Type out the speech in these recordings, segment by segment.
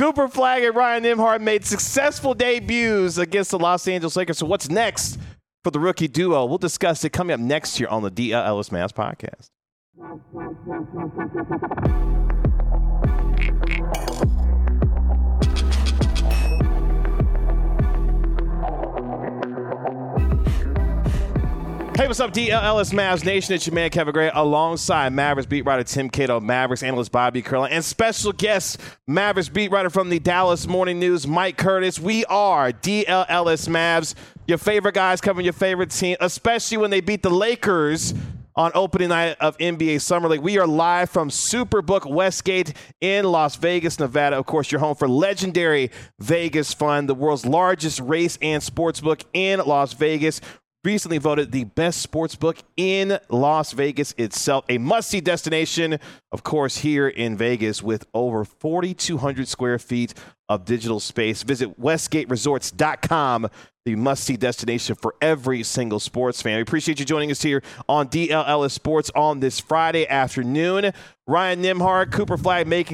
Cooper Flagg and Ryan Nembhard made successful debuts against the Los Angeles Lakers. So what's next for the rookie duo? We'll discuss it coming up next here on the DL Ellis Mavs podcast. Hey, what's up, DL Ellis Mavs Nation? It's your man, Kevin Gray, alongside Mavericks beat writer Tim Cato, Mavericks analyst Bobby Curlin, and special guest, Mavericks beat writer from the Dallas Morning News, Mike Curtis. We are DL Ellis Mavs, your favorite guys covering your favorite team, especially when they beat the Lakers on opening night of NBA Summer League. We are live from Superbook Westgate in Las Vegas, Nevada. Of course, your home for legendary Vegas Fun, the world's largest race and sports book in Las Vegas. Recently voted the best sports book in Las Vegas itself. A must-see destination, of course, here in Vegas with over 4,200 square feet of digital space. Visit westgateresorts.com, the must-see destination for every single sports fan. We appreciate you joining us here on DL Ellis Sports on this Friday afternoon. Ryan Nembhard, Cooper Flagg making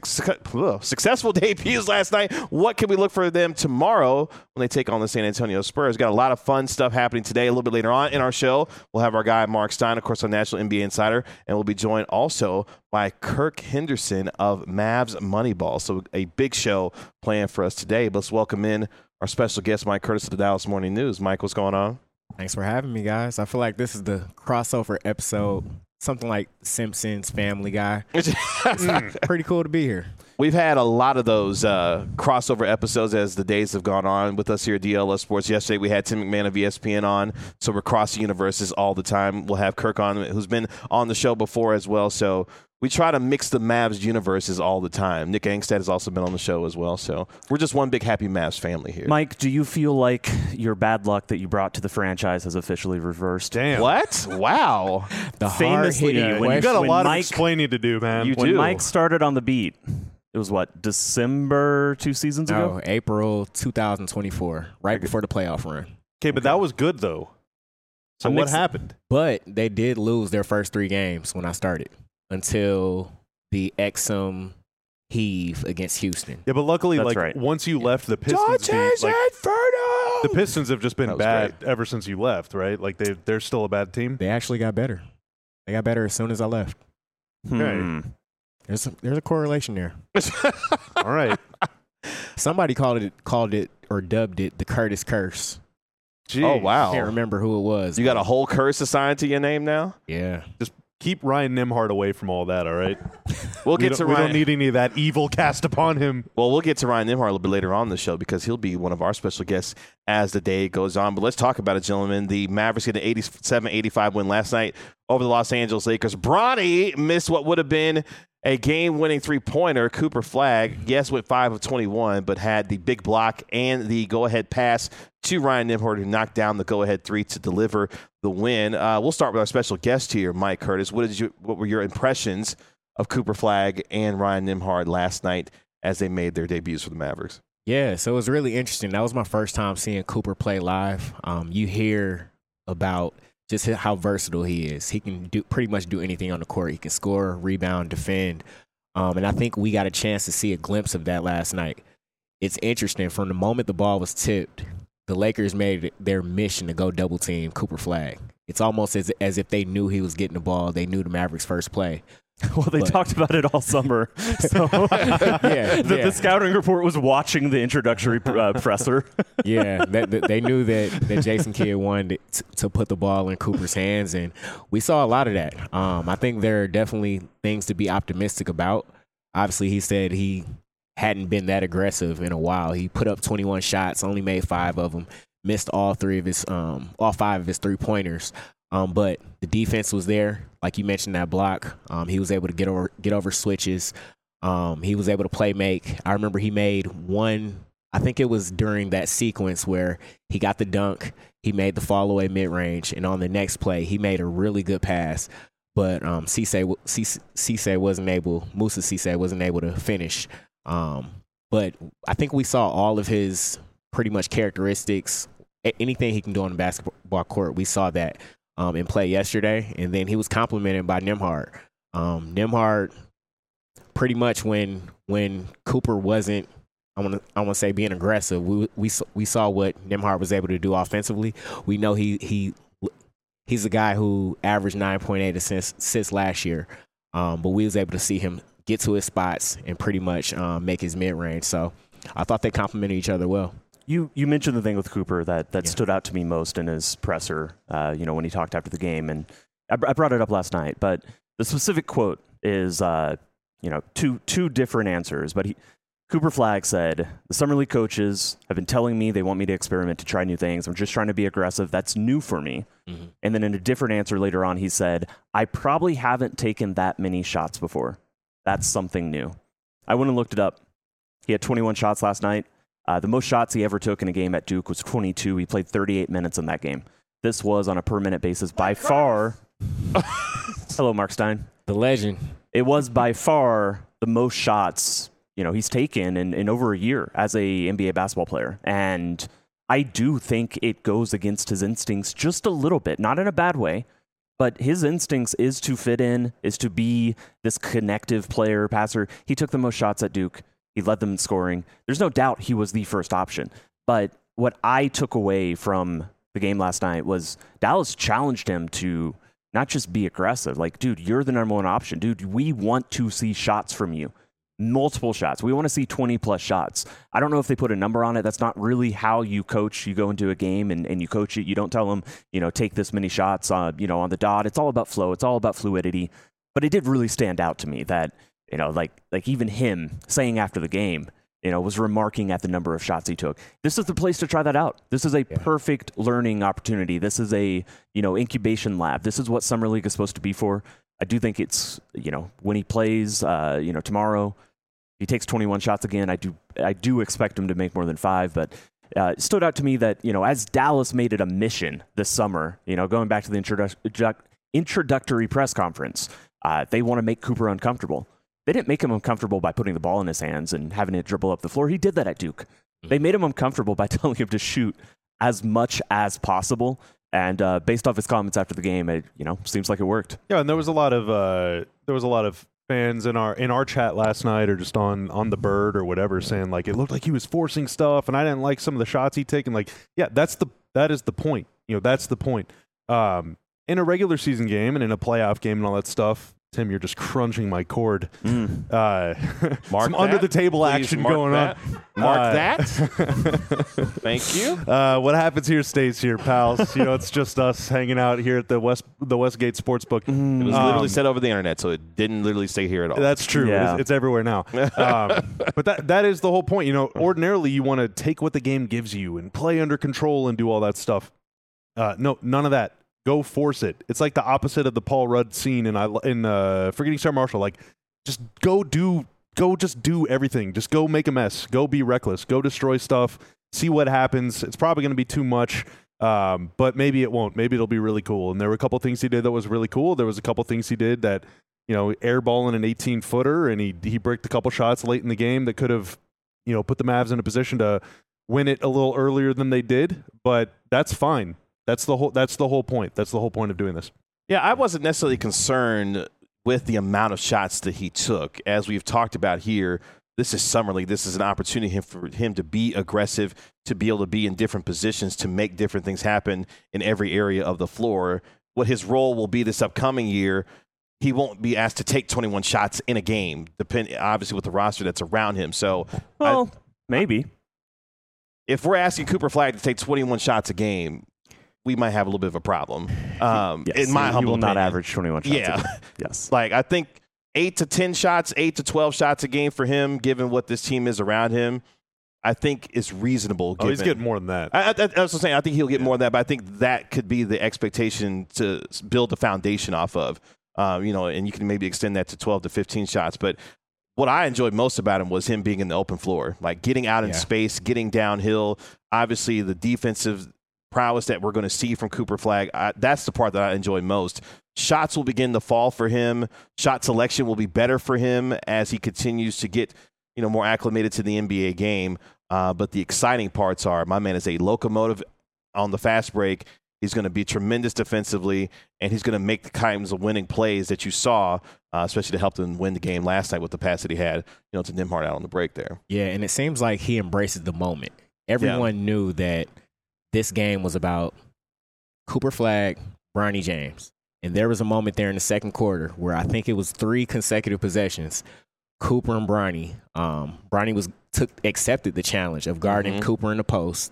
successful debuts last night. What can we look for them tomorrow when they take on the San Antonio Spurs? Got a lot of fun stuff happening today. A little bit later on in our show, we'll have our guy Mark Stein, of course, our National NBA Insider, and we'll be joined also by Kirk Henderson of Mavs Moneyball. So a big show planned for us today. But let's welcome in our special guest, Mike Curtis of the Dallas Morning News. Mike, what's going on? Thanks for having me, guys. I feel like this is the crossover episode, something like Simpsons, Family Guy. Pretty cool to be here. We've had a lot of those crossover episodes as the days have gone on with us here at DLS Sports. Yesterday we had Tim McMahon of ESPN on, so we're crossing universes all the time. We'll have Kirk on, who's been on the show before as well. So we try to mix the Mavs universes all the time. Nick Angstad has also been on the show as well. So we're just one big happy Mavs family here. Mike, do you feel like your bad luck that you brought to the franchise has officially reversed? Damn. What? Wow. The Famously, hard-hitting You got a lot Mike, of explaining to do, man. when Mike started on the beat, it was what, December 2 seasons ago? No, April 2024, right before the playoff run. Okay, but that was good, though. So what happened? But they did lose their first 3 games when I started until the Exum heave against Houston. Yeah, but luckily, That's like right. once you left, the Pistons the Pistons have just been bad ever since you left, right? Like they're still a bad team. They actually got better. They got better as soon as I left. Okay. There's a correlation there. All right. Somebody called it or dubbed it the Curtis Curse. Jeez. Oh, wow. Can't remember who it was. You got a whole curse assigned to your name now? Yeah. Just keep Ryan Nembhard away from all that, all right? We'll We get don't, to we Ryan. don't need any of that evil cast upon him. Well, we'll get to Ryan Nembhard a little bit later on in the show because he'll be one of our special guests as the day goes on. But let's talk about it, gentlemen. The Mavericks get an 87-85 win last night over the Los Angeles Lakers. Bronny missed what would have been a game-winning three-pointer. Cooper Flagg, yes, went 5 of 21, but had the big block and the go-ahead pass to Ryan Nembhard, who knocked down the go-ahead 3 to deliver the win. We'll start with our special guest here, Mike Curtis. What were your impressions of Cooper Flagg and Ryan Nembhard last night as they made their debuts for the Mavericks? Yeah, so it was really interesting. That was my first time seeing Cooper play live. You hear about just how versatile he is. He can pretty much do anything on the court. He can score, rebound, defend. And I think we got a chance to see a glimpse of that last night. It's interesting. From the moment the ball was tipped, the Lakers made it their mission to go double team Cooper Flagg. It's almost as if they knew he was getting the ball. They knew the Mavericks' first play. Well, they talked about it all summer. So the scouting report was watching the introductory presser. Yeah, they knew that Jason Kidd wanted to put the ball in Cooper's hands, and we saw a lot of that. I think there are definitely things to be optimistic about. Obviously, he said he hadn't been that aggressive in a while. He put up 21 shots, only made 5 of them, missed all 5 of his 3-pointers. But the defense was there, like you mentioned, that block. He was able to get over switches. He was able to play make. I remember he made one. I think it was during that sequence where he got the dunk. He made the fall away mid range, and on the next play, he made a really good pass. But Musa Cisse wasn't able to finish. But I think we saw all of his pretty much characteristics. Anything he can do on the basketball court, we saw that in play yesterday. And then he was complimented by Nembhard. Nembhard pretty much when Cooper wasn't, I want to say, being aggressive, we saw what Nembhard was able to do offensively. We know he's a guy who averaged 9.8 assists last year, but we was able to see him get to his spots and pretty much make his mid-range. So I thought they complemented each other well. You mentioned the thing with Cooper that stood out to me most in his presser, when he talked after the game, and I brought it up last night, but the specific quote is, two different answers, but Cooper Flagg said, "The Summer League coaches have been telling me they want me to experiment, to try new things. I'm just trying to be aggressive. That's new for me." Mm-hmm. And then in a different answer later on, he said, "I probably haven't taken that many shots before. That's something new." I went and looked it up. He had 21 shots last night. The most shots he ever took in a game at Duke was 22. He played 38 minutes in that game. This was on a per-minute basis by far. Hello, Mark Stein. The legend. It was by far the most shots he's taken in over a year as a NBA basketball player. And I do think it goes against his instincts just a little bit, not in a bad way, but his instincts is to fit in, is to be this connective player, passer. He took the most shots at Duke. He led them in scoring. There's no doubt he was the first option. But what I took away from the game last night was Dallas challenged him to not just be aggressive. Like, dude, you're the number one option. Dude, we want to see shots from you. Multiple shots. We want to see 20-plus shots. I don't know if they put a number on it. That's not really how you coach. You go into a game and you coach it. You don't tell them, take this many shots on the dot. It's all about flow. It's all about fluidity. But it did really stand out to me that, like even him saying after the game, was remarking at the number of shots he took. This is the place to try that out. This is a perfect learning opportunity. This is a, incubation lab. This is what Summer League is supposed to be for. I do think it's, when he plays, tomorrow, he takes 21 shots again. I do expect him to make more than 5, but it stood out to me that, as Dallas made it a mission this summer, going back to the introductory press conference, they want to make Cooper uncomfortable. They didn't make him uncomfortable by putting the ball in his hands and having it dribble up the floor. He did that at Duke. They made him uncomfortable by telling him to shoot as much as possible. And based off his comments after the game, it seems like it worked. Yeah, and there was a lot of fans in our chat last night, or just on the Bird or whatever, saying like it looked like he was forcing stuff, and I didn't like some of the shots he'd taken. Like, yeah, that is the point. That's the point. In a regular season game and in a playoff game and all that stuff, Tim, you're just crunching my cord. Some under the table action going on. Mark that. Thank you. What happens here stays here, pals. It's just us hanging out here at the Westgate Sportsbook. It was literally said over the internet, so it didn't literally stay here at all. That's true. Yeah. It's everywhere now. But that is the whole point. Ordinarily you want to take what the game gives you and play under control and do all that stuff. No, none of that. Go force it. It's like the opposite of the Paul Rudd scene in Forgetting Sarah Marshall. Like, just just do everything. Just go make a mess. Go be reckless. Go destroy stuff. See what happens. It's probably going to be too much, but maybe it won't. Maybe it'll be really cool. And there were a couple things he did that was really cool. There was a couple things he did that, airballing an 18-footer, and he bricked a couple shots late in the game that could have, put the Mavs in a position to win it a little earlier than they did. But that's fine. That's the whole point. That's the whole point of doing this. Yeah, I wasn't necessarily concerned with the amount of shots that he took. As we've talked about here, this is Summer League. This is an opportunity for him to be aggressive, to be able to be in different positions, to make different things happen in every area of the floor. What his role will be this upcoming year, he won't be asked to take 21 shots in a game, obviously with the roster that's around him. So, maybe. If we're asking Cooper Flagg to take 21 shots a game, we might have a little bit of a problem. Yes, in my humble opinion. Not average 21 shots. Yeah. Yes. Like, I think 8 to 10 shots, 8 to 12 shots a game for him, given what this team is around him, I think is reasonable. He's getting more than that. I was just saying, I think he'll get more than that, but I think that could be the expectation to build the foundation off of. And you can maybe extend that to 12 to 15 shots. But what I enjoyed most about him was him being in the open floor, like getting out in space, getting downhill. Obviously, the defensive prowess that we're going to see from Cooper Flagg, that's the part that I enjoy most. Shots will begin to fall for him. Shot selection will be better for him as he continues to get more acclimated to the NBA game. But the exciting parts are, my man is a locomotive on the fast break. He's going to be tremendous defensively, and he's going to make the kinds of winning plays that you saw, especially to help them win the game last night with the pass that he had, to Nembhard out on the break there. Yeah, and it seems like he embraces the moment. Everyone knew that this game was about Cooper Flagg, Bronny James. And there was a moment there in the second quarter where I think it was 3 consecutive possessions. Cooper and Bronny. Bronny accepted the challenge of guarding Cooper in the post.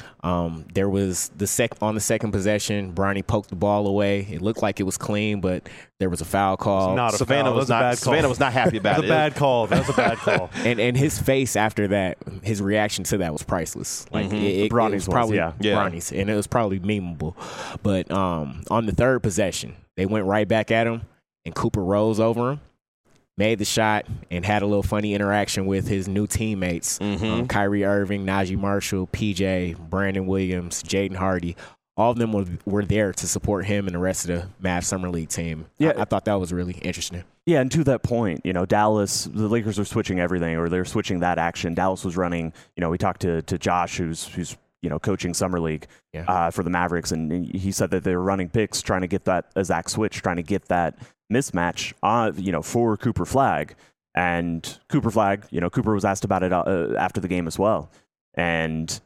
There was on the second possession, Bronny poked the ball away. It looked like it was clean, but there was a foul call. Savannah was not happy about it. That was a bad call. And his face after that, his reaction to that was priceless. Like it was probably Bronny's, and it was probably memeable. But on the third possession, they went right back at him, and Cooper rose over him, made the shot, and had a little funny interaction with his new teammates, Kyrie Irving, Najee Marshall, PJ, Brandon Williams, Jaden Hardy. All of them were there to support him and the rest of the Mavs Summer League team. Yeah. I thought that was really interesting. Yeah, and to that point, Dallas, the Lakers are switching everything, or they're switching that action. Dallas was running, we talked to Josh, who's coaching Summer League for the Mavericks, and he said that they were running picks, trying to get that Zach switch, trying to get that mismatch, for Cooper Flagg. And Cooper Flagg, Cooper was asked about it after the game as well. And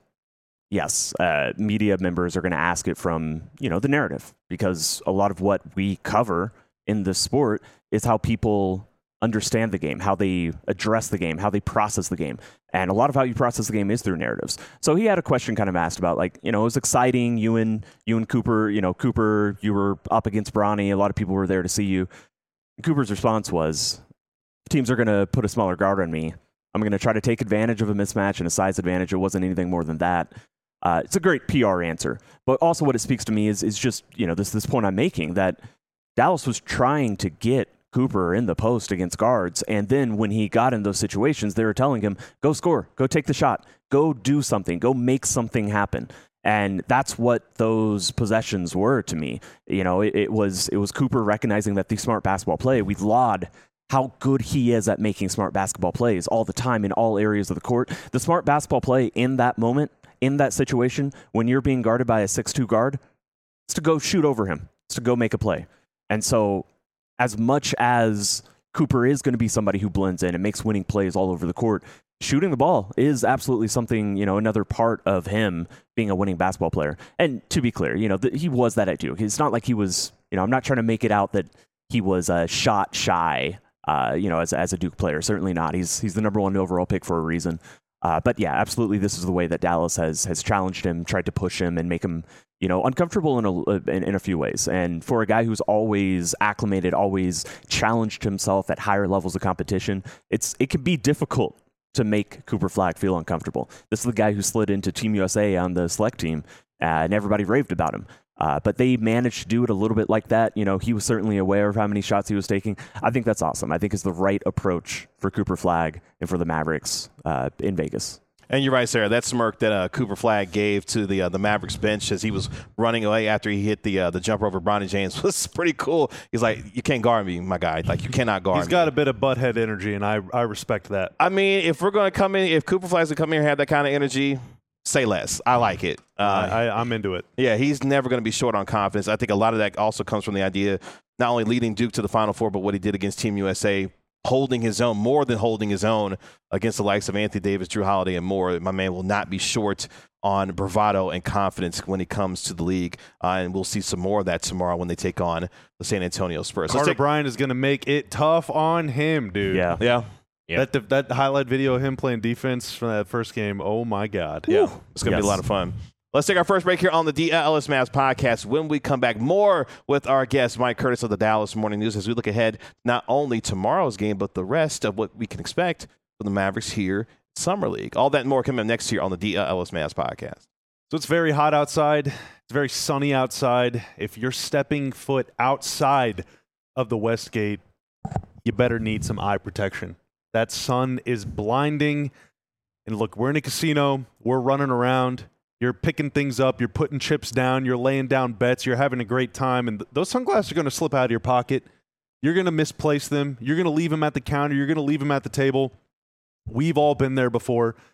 yes, media members are going to ask it from, the narrative, because a lot of what we cover in this sport is how people understand the game, how they address the game, how they process the game. And a lot of how you process the game is through narratives. So he had a question kind of asked about, it was exciting. You and Cooper, Cooper, you were up against Bronny. A lot of people were there to see you. Cooper's response was, teams are going to put a smaller guard on me. I'm going to try to take advantage of a mismatch and a size advantage. It wasn't anything more than that. It's a great PR answer. But also what it speaks to me is just, this point I'm making, that Dallas was trying to get Cooper in the post against guards, and then when he got in those situations, they were telling him, go score, go take the shot, go do something, go make something happen. And that's what those possessions were to me. It was Cooper recognizing that the smart basketball play, we laud how good he is at making smart basketball plays all the time in all areas of the court. The smart basketball play in that moment, in that situation, when you're being guarded by a 6'2" guard, it's to go shoot over him. It's to go make a play. And so as much as Cooper is going to be somebody who blends in and makes winning plays all over the court, shooting the ball is absolutely something, another part of him being a winning basketball player. And to be clear, he was that at Duke. It's not like he was, I'm not trying to make it out that he was shot shy, as a Duke player. Certainly not. He's the number 1 overall pick for a reason. But yeah, absolutely, this is the way that Dallas has challenged him, tried to push him and make him, uncomfortable in a few ways. And for a guy who's always acclimated, always challenged himself at higher levels of competition, it can be difficult to make Cooper Flagg feel uncomfortable. This is the guy who slid into Team USA on the select team, and everybody raved about him. But they managed to do it a little bit like that. He was certainly aware of how many shots he was taking. I think that's awesome. I think it's the right approach for Cooper Flagg and for the Mavericks in Vegas. And you're right, Sarah. That smirk that Cooper Flagg gave to the Mavericks bench as he was running away after he hit the jumper over Bronny James was pretty cool. He's like, you can't guard me, my guy. Like, you cannot guard me. He's got a bit of butthead energy, and I respect that. I mean, if we're going to come in, if Cooper Flagg's going to come here and have that kind of energy, say less. I like it. I'm into it. Yeah, he's never going to be short on confidence. I think a lot of that also comes from the idea not only leading Duke to the Final Four, but what he did against Team USA, holding his own, more than holding his own against the likes of Anthony Davis, Drew Holiday, and more. My man will not be short on bravado and confidence when he comes to the league, and we'll see some more of that tomorrow when they take on the San Antonio Spurs. Carter Bryant is going to make it tough on him, dude. Yeah. That highlight video of him playing defense from that first game, oh my God. Yeah, it's going to be a lot of fun. Let's take our first break here on the DLS Mavs podcast. When we come back, more with our guest, Mike Curtis of the Dallas Morning News, as we look ahead not only tomorrow's game, but the rest of what we can expect from the Mavericks here in Summer League. All that and more coming up next here on the DLS Mavs podcast. So it's very hot outside. It's very sunny outside. If you're stepping foot outside of the West Gate, you better need some eye protection. That sun is blinding. And look, we're in a casino. We're running around. You're picking things up. You're putting chips down. You're laying down bets. You're having a great time. And those sunglasses are going to slip out of your pocket. You're going to misplace them. You're going to leave them at the counter. You're going to leave them at the table. We've all been there before.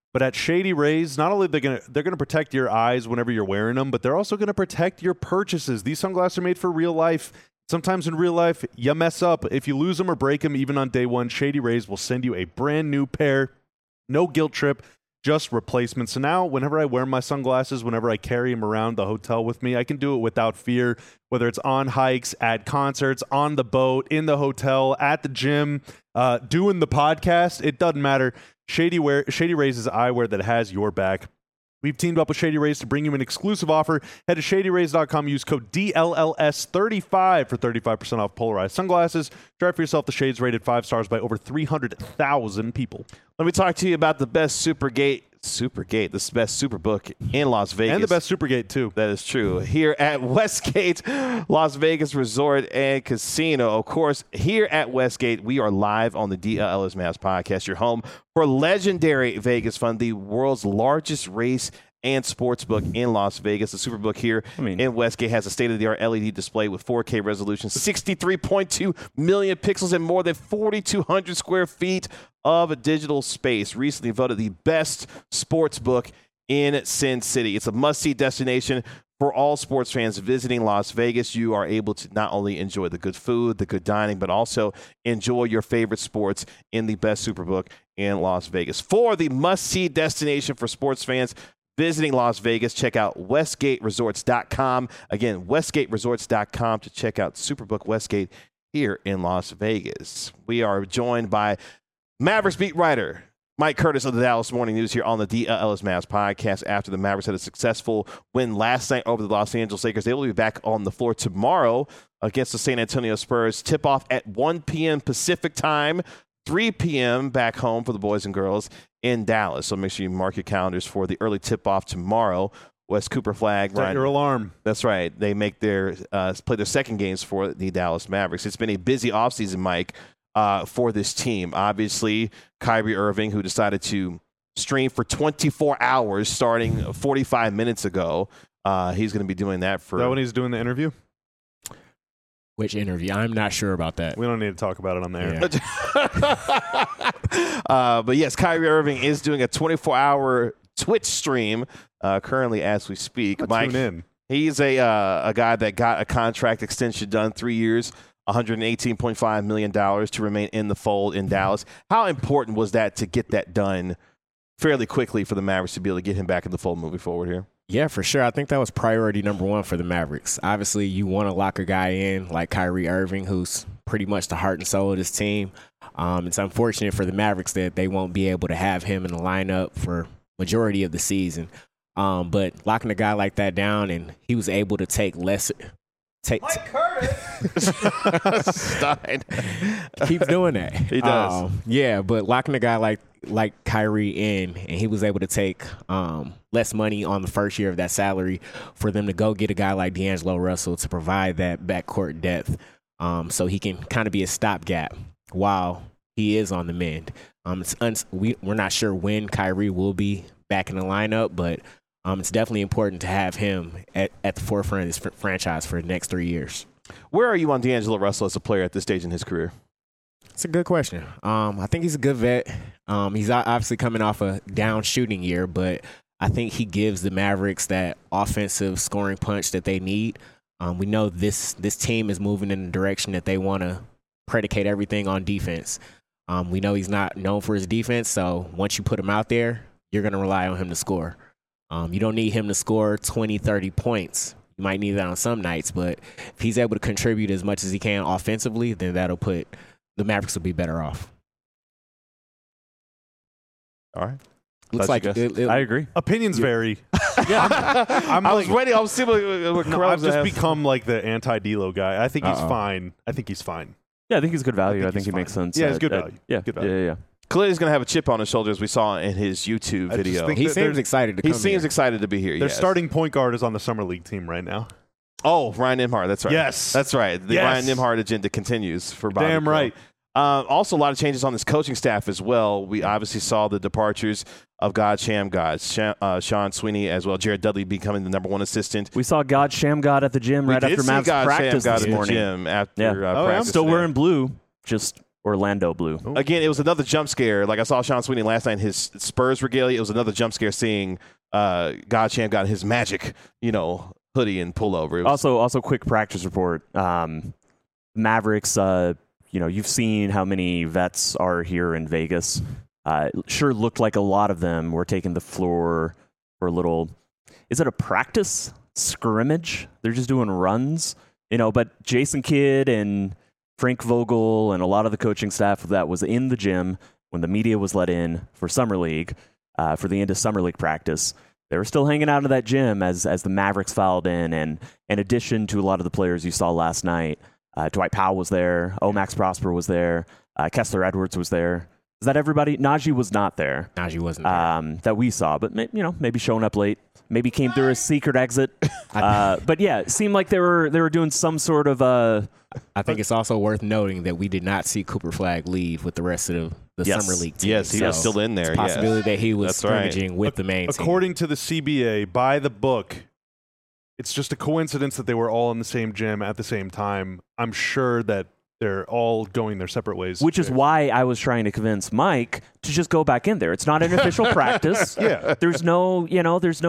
But at Shady Rays, not only they're gonna protect your eyes whenever you're wearing them, but they're also gonna protect your purchases. These sunglasses are made for real life. Sometimes in real life, you mess up. If you lose them or break them, even on day one, Shady Rays will send you a brand new pair. No guilt trip, just replacement. So now, whenever I wear my sunglasses, whenever I carry them around the hotel with me, I can do it without fear, whether it's on hikes, at concerts, on the boat, in the hotel, at the gym, doing the podcast. It doesn't matter. Shady Rays is eyewear that has your back. We've teamed up with Shady Rays to bring you an exclusive offer. Head to ShadyRays.com. Use code DLLS35 for 35% off polarized sunglasses. Try for yourself the shades rated 5 stars by over 300,000 people. Let me talk to you about the best Supergate, the best Superbook in Las Vegas. And the best Supergate, too. That is true. Here at Westgate, Las Vegas Resort and Casino. Of course, here at Westgate, we are live on the DLLS Mavs podcast, your home for legendary Vegas Fun, the world's largest race and sportsbook in Las Vegas. The Superbook here in Westgate has a state-of-the-art LED display with 4K resolution, 63.2 million pixels, and more than 4,200 square feet of digital space. Recently voted the best sportsbook in Sin City. It's a must-see destination for all sports fans visiting Las Vegas. You are able to not only enjoy the good food, the good dining, but also enjoy your favorite sports in the best Superbook in Las Vegas. For the must-see destination for sports fans visiting Las Vegas, check out WestgateResorts.com. Again, WestgateResorts.com to check out Superbook Westgate here in Las Vegas. We are joined by Mavericks beat writer Mike Curtis of the Dallas Morning News here on the DLLS Mavs podcast after the Mavericks had a successful win last night over the Los Angeles Lakers. They will be back on the floor tomorrow against the San Antonio Spurs. Tip-off at 1 p.m. Pacific time, 3 p.m. back home for the boys and girls in Dallas. So make sure you mark your calendars for the early tip-off tomorrow. Wes Cooper Flag. Set your alarm. That's right. They make their play their second games for the Dallas Mavericks. It's been a busy offseason, Mike, for this team. Obviously, Kyrie Irving, who decided to stream for 24 hours starting 45 minutes ago. He's going to be doing that for... Is that when he's doing the interview? Which interview? I'm not sure about that. We don't need to talk about it on there. Yeah. But yes, Kyrie Irving is doing a 24-hour Twitch stream currently as we speak. Mike, tune in. He's a guy that got a contract extension done, 3 years, $118.5 million to remain in the fold in Dallas. How important was that to get that done fairly quickly for the Mavericks to be able to get him back in the fold moving forward here? Yeah, for sure. I think that was priority number one for the Mavericks. Obviously, you want to lock a guy in like Kyrie Irving, who's pretty much the heart and soul of this team. It's unfortunate for the Mavericks that they won't be able to have him in the lineup for majority of the season. But locking a guy like that down, and he was able to take less. Mike Curtis! Stein. Keeps doing that. He does. Yeah, but locking a guy like Kyrie in, and he was able to take less money on the first year of that salary for them to go get a guy like D'Angelo Russell to provide that backcourt depth, so he can kind of be a stopgap while he is on the mend. We're not sure when Kyrie will be back in the lineup, but it's definitely important to have him at the forefront of this franchise for the next 3 years. Where are you on D'Angelo Russell as a player at this stage in his career? It's a good question. I think he's a good vet. He's obviously coming off a down shooting year, but I think he gives the Mavericks that offensive scoring punch that they need. We know this team is moving in the direction that they want to predicate everything on defense. We know he's not known for his defense, so once you put him out there, you're going to rely on him to score. You don't need him to score 20, 30 points. You might need that on some nights, but if he's able to contribute as much as he can offensively, then that'll put the Mavericks will be better off. All right. Looks like I agree. Opinions vary. Yeah, I was ready. I was seeing what I've just become like the anti-D'Lo guy. I think he's fine. Yeah, I think he's good value. I think he makes sense. Yeah, he's good value. Good value. Yeah. Clearly, he's going to have a chip on his shoulder, as we saw in his YouTube video. He seems excited to come He seems excited to be here. Their starting point guard is on the Summer League team right now. Oh, Ryan Nembhard. That's right. Yes. That's right. The Ryan Nembhard agenda continues for Bobby Damn Crow. right. Also, a lot of changes on this coaching staff as well. We obviously saw the departures of God Shammgod, Sean Sweeney, as well. Jared Dudley becoming the number one assistant. We saw God Shammgod at the gym right after Mavs practice this morning. Gym after practice. Still wearing blue, just Orlando blue. Again, it was another jump scare. Like I saw Sean Sweeney last night in his Spurs regalia. It was another jump scare seeing God Champ got his Magic, hoodie and pullover. Also, quick practice report. Mavericks, you've seen how many vets are here in Vegas. Sure looked like a lot of them were taking the floor for a little, is it a practice scrimmage? They're just doing runs, but Jason Kidd and Frank Vogel and a lot of the coaching staff that was in the gym when the media was let in for Summer League, for the end of Summer League practice. They were still hanging out in that gym as the Mavericks filed in, and in addition to a lot of the players you saw last night, Dwight Powell was there, Max Prosper was there, Kessler Edwards was there. Is that everybody? Najee was not there. Najee wasn't there. That we saw, but maybe showing up late, maybe came through a secret exit. But yeah, it seemed like they were doing some sort of I think it's also worth noting that we did not see Cooper Flagg leave with the rest of the Summer League team. Yes, he was still in there. It's a possibility that he was scrimmaging with the main team. According to the CBA, by the book, it's just a coincidence that they were all in the same gym at the same time. I'm sure that they're all going their separate ways. Which is why I was trying to convince Mike to just go back in there. It's not an official practice. Yeah. There's no It's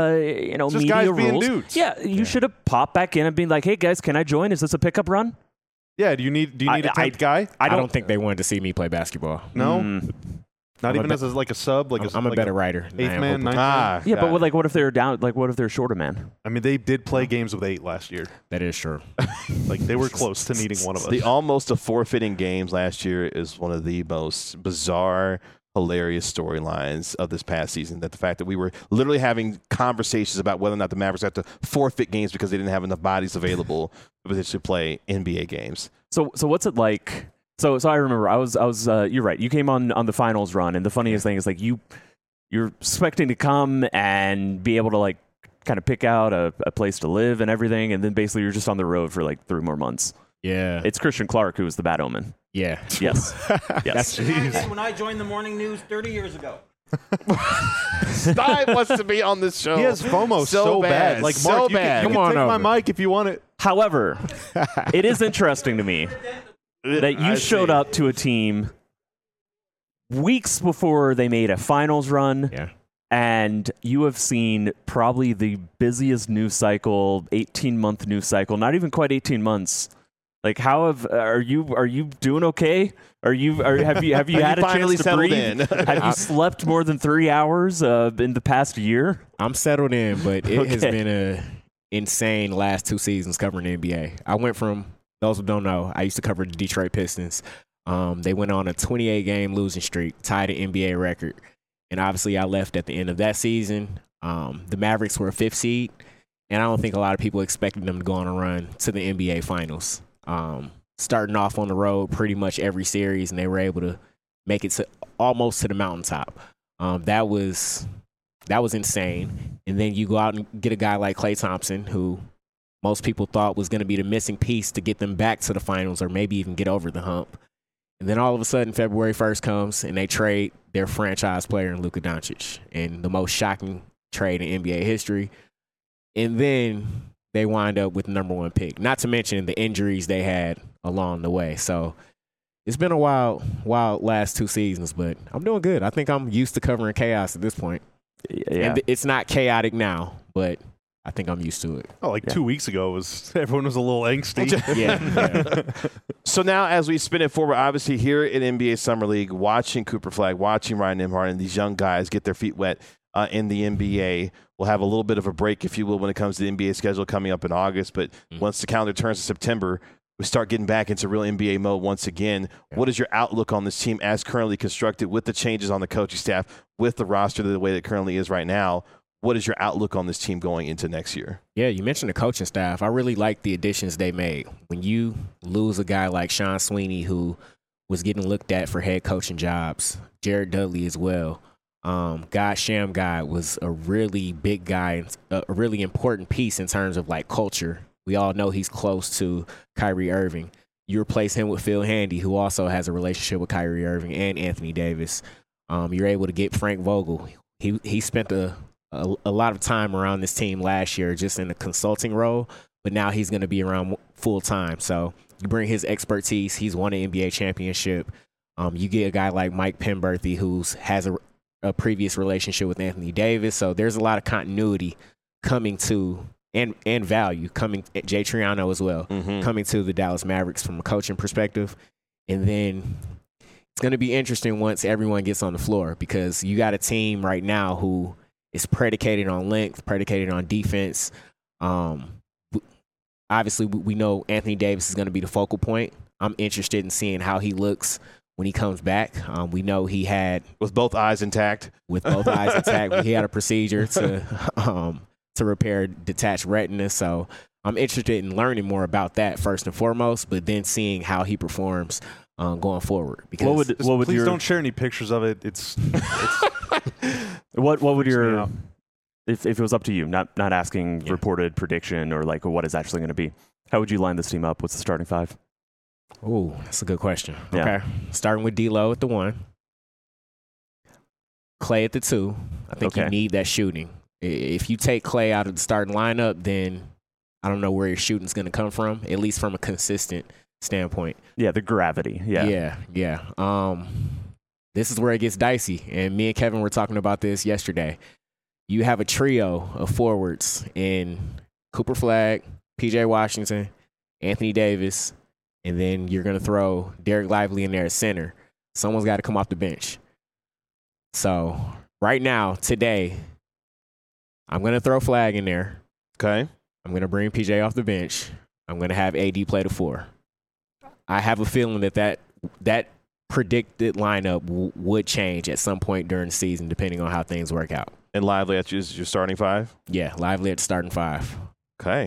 just media guys rules. being dudes. Yeah, you should have popped back in and been like, "Hey guys, can I join? Is this a pickup run?" Yeah. Do you need a 10th guy? I don't think they wanted to see me play basketball. No. Not even as a sub. I'm a better writer. Eighth man, ninth man. Yeah, but what if they're down? Like, what if they're short a man? I mean, they did play games with 8 last year. That is true. Like they were close to needing one of us. The almost a forfeiting games last year is one of the most bizarre, hilarious storylines of this past season. That the fact that we were literally having conversations about whether or not the Mavericks have to forfeit games because they didn't have enough bodies available to potentially play NBA games. So what's it like? So I remember I was you're right. You came on the finals run, and the funniest thing is like you're expecting to come and be able to like kind of pick out a place to live and everything, and then basically you're just on the road for like 3 more months. Yeah. It's Christian Clark who was the bad omen. Yeah. Yes. Yes. When I joined the morning news 30 years ago. Stein wants to be on this show. He has FOMO so bad. Like, so Mark, bad. You Come can on take over. my mic if you want it. However, it is interesting to me that you showed up to a team weeks before they made a finals run. Yeah. And you have seen probably the busiest news cycle, 18-month news cycle, not even quite 18 months. Like, are you doing okay? Have you had a finally chance to settled breathe? in? Have you slept more than 3 hours in the past year? I'm settled in, but it has Okay. been a insane last 2 seasons covering the NBA. I went from, those who don't know, I used to cover the Detroit Pistons. They went on a 28-game losing streak, tied an NBA record. And obviously I left at the end of that season. The Mavericks were a 5th seed, and I don't think a lot of people expected them to go on a run to the NBA Finals. Starting off on the road pretty much every series, and they were able to make it to almost to the mountaintop. That was insane. And then you go out and get a guy like Klay Thompson, who most people thought was going to be the missing piece to get them back to the finals or maybe even get over the hump. And then all of a sudden, February 1st comes, and they trade their franchise player in Luka Doncic, in the most shocking trade in NBA history. And then they wind up with the number 1 pick, not to mention the injuries they had along the way. So it's been a wild last 2 seasons, but I'm doing good. I think I'm used to covering chaos at this point. Yeah. And it's not chaotic now, but I think I'm used to it. Oh, like 2 weeks ago, everyone was a little angsty. Yeah. So now, as we spin it forward, obviously here at NBA Summer League, watching Cooper Flagg, watching Ryan Nembhard, and these young guys get their feet wet in the NBA. We'll have a little bit of a break, if you will, when it comes to the NBA schedule coming up in August. But once the calendar turns to September, we start getting back into real NBA mode once again. Yeah. What is your outlook on this team as currently constructed, with the changes on the coaching staff, with the roster the way that it currently is right now? What is your outlook on this team going into next year? Yeah, you mentioned the coaching staff. I really like the additions they made. When you lose a guy like Sean Sweeney, who was getting looked at for head coaching jobs, Jared Dudley as well. Shammgod was a really big guy, a really important piece in terms of like culture. We all know he's close to Kyrie Irving. You replace him with Phil Handy, who also has a relationship with Kyrie Irving and Anthony Davis. You're able to get Frank Vogel. He spent a lot of time around this team last year just in a consulting role, but now he's going to be around full time. So You bring his expertise. He's won an NBA championship. You get a guy like Mike Penberthy, who has a previous relationship with Anthony Davis. So there's a lot of continuity coming to and value coming. Jay Triano as well, coming to the Dallas Mavericks from a coaching perspective. And then it's going to be interesting once everyone gets on the floor, because you got a team right now who is predicated on length, predicated on defense. Obviously, we know Anthony Davis is going to be the focal point. I'm interested in seeing how he looks when he comes back. We know he had with both eyes intact. He had a procedure to repair detached retina. So I'm interested in learning more about that first and foremost, but then seeing how he performs going forward. Because please don't share any pictures of it. It's what would your if it was up to you, not asking reported prediction or like what it's actually going to be, how would you line this team up? What's the starting five? Oh, that's a good question. Yeah. Okay, starting with D'Lo at the 1, Klay at the 2. I think you need that shooting. If you take Klay out of the starting lineup, then I don't know where your shooting's going to come from, at least from a consistent standpoint. Yeah, the gravity. Yeah. This is where it gets dicey, and me and Kevin were talking about this yesterday. You have a trio of forwards in Cooper Flagg, P.J. Washington, Anthony Davis, and then you're going to throw Derek Lively in there at center. Someone's got to come off the bench. So right now, today, I'm going to throw Flagg in there. Okay. I'm going to bring P.J. off the bench. I'm going to have AD play the 4. I have a feeling that predicted lineup would change at some point during the season, depending on how things work out. And Lively at your starting 5? Yeah, Lively at the starting 5. Okay.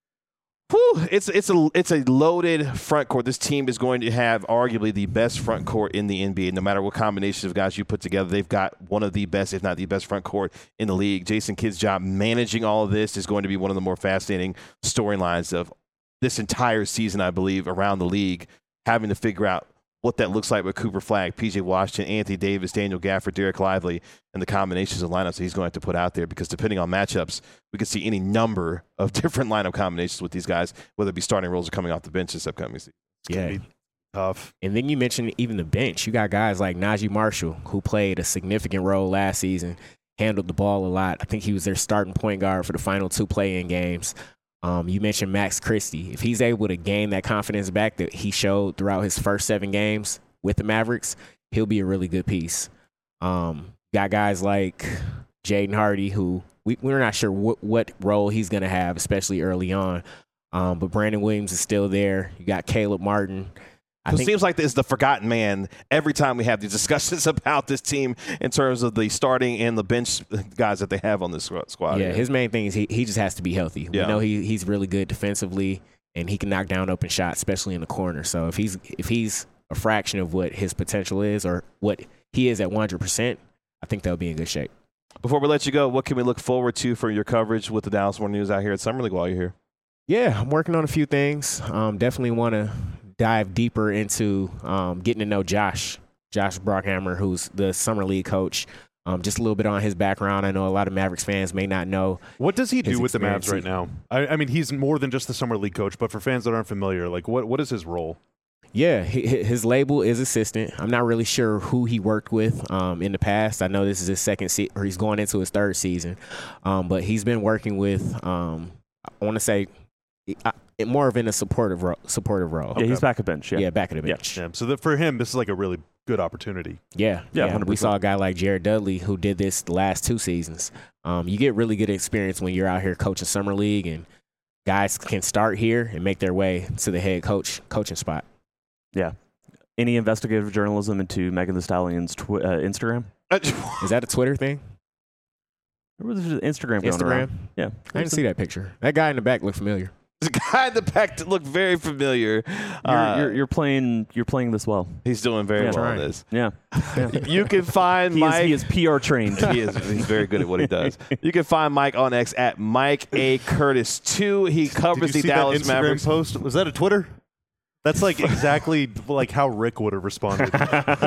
Whew, it's a loaded front court. This team is going to have arguably the best front court in the NBA. No matter what combinations of guys you put together, they've got one of the best, if not the best, front court in the league. Jason Kidd's job managing all of this is going to be one of the more fascinating storylines of this entire season, I believe, around the league, having to figure out what that looks like with Cooper Flagg, P.J. Washington, Anthony Davis, Daniel Gafford, Derek Lively, and the combinations of lineups that he's going to have to put out there, because depending on matchups, we could see any number of different lineup combinations with these guys, whether it be starting roles or coming off the bench this upcoming season. Yeah. Tough. And then you mentioned even the bench. You got guys like Najee Marshall, who played a significant role last season, handled the ball a lot. I think he was their starting point guard for the final 2 play-in games. You mentioned Max Christie. If he's able to gain that confidence back that he showed throughout his first 7 games with the Mavericks, he'll be a really good piece. Got guys like Jaden Hardy, who we're not sure what role he's going to have, especially early on. But Brandon Williams is still there. You got Caleb Martin. It seems like this is the forgotten man every time we have these discussions about this team in terms of the starting and the bench guys that they have on this squad. Yeah, his main thing is he just has to be healthy. We know he's really good defensively, and he can knock down open shots, especially in the corner. So if he's a fraction of what his potential is or what he is at 100%, I think they'll be in good shape. Before we let you go, what can we look forward to for your coverage with the Dallas Morning News out here at Summer League while you're here? Yeah, I'm working on a few things. Definitely want to dive deeper into getting to know Josh Brockhammer, who's the Summer League coach. Just a little bit on his background. I know a lot of Mavericks fans may not know. What does he do with the Mavs right now? I mean, he's more than just the Summer League coach, but for fans that aren't familiar, like what is his role? Yeah, his label is assistant. I'm not really sure who he worked with in the past. I know this is his second season, or he's going into his 3rd season. But he's been working with, I want to say, more of in a supportive role. Yeah, he's back at bench. Yeah, back at the bench. Yeah. So for him, this is like a really good opportunity. Yeah. 100%. We saw a guy like Jared Dudley who did this the last 2 seasons. You get really good experience when you're out here coaching Summer League, and guys can start here and make their way to the head coaching spot. Yeah. Any investigative journalism into Megan Thee Stallion's Instagram? Is that a Twitter thing? There was Instagram going around. Yeah. I didn't see that picture. That guy in the back looked familiar. The guy in the back that looked very familiar. You're playing this well. He's doing very well on this. Yeah. You can find Mike. He is PR trained. He's very good at what he does. You can find Mike on X at Mike A. Curtis 2. He covers the Dallas Mavericks. Post? Was that a Twitter? That's like exactly like how Rick would have responded.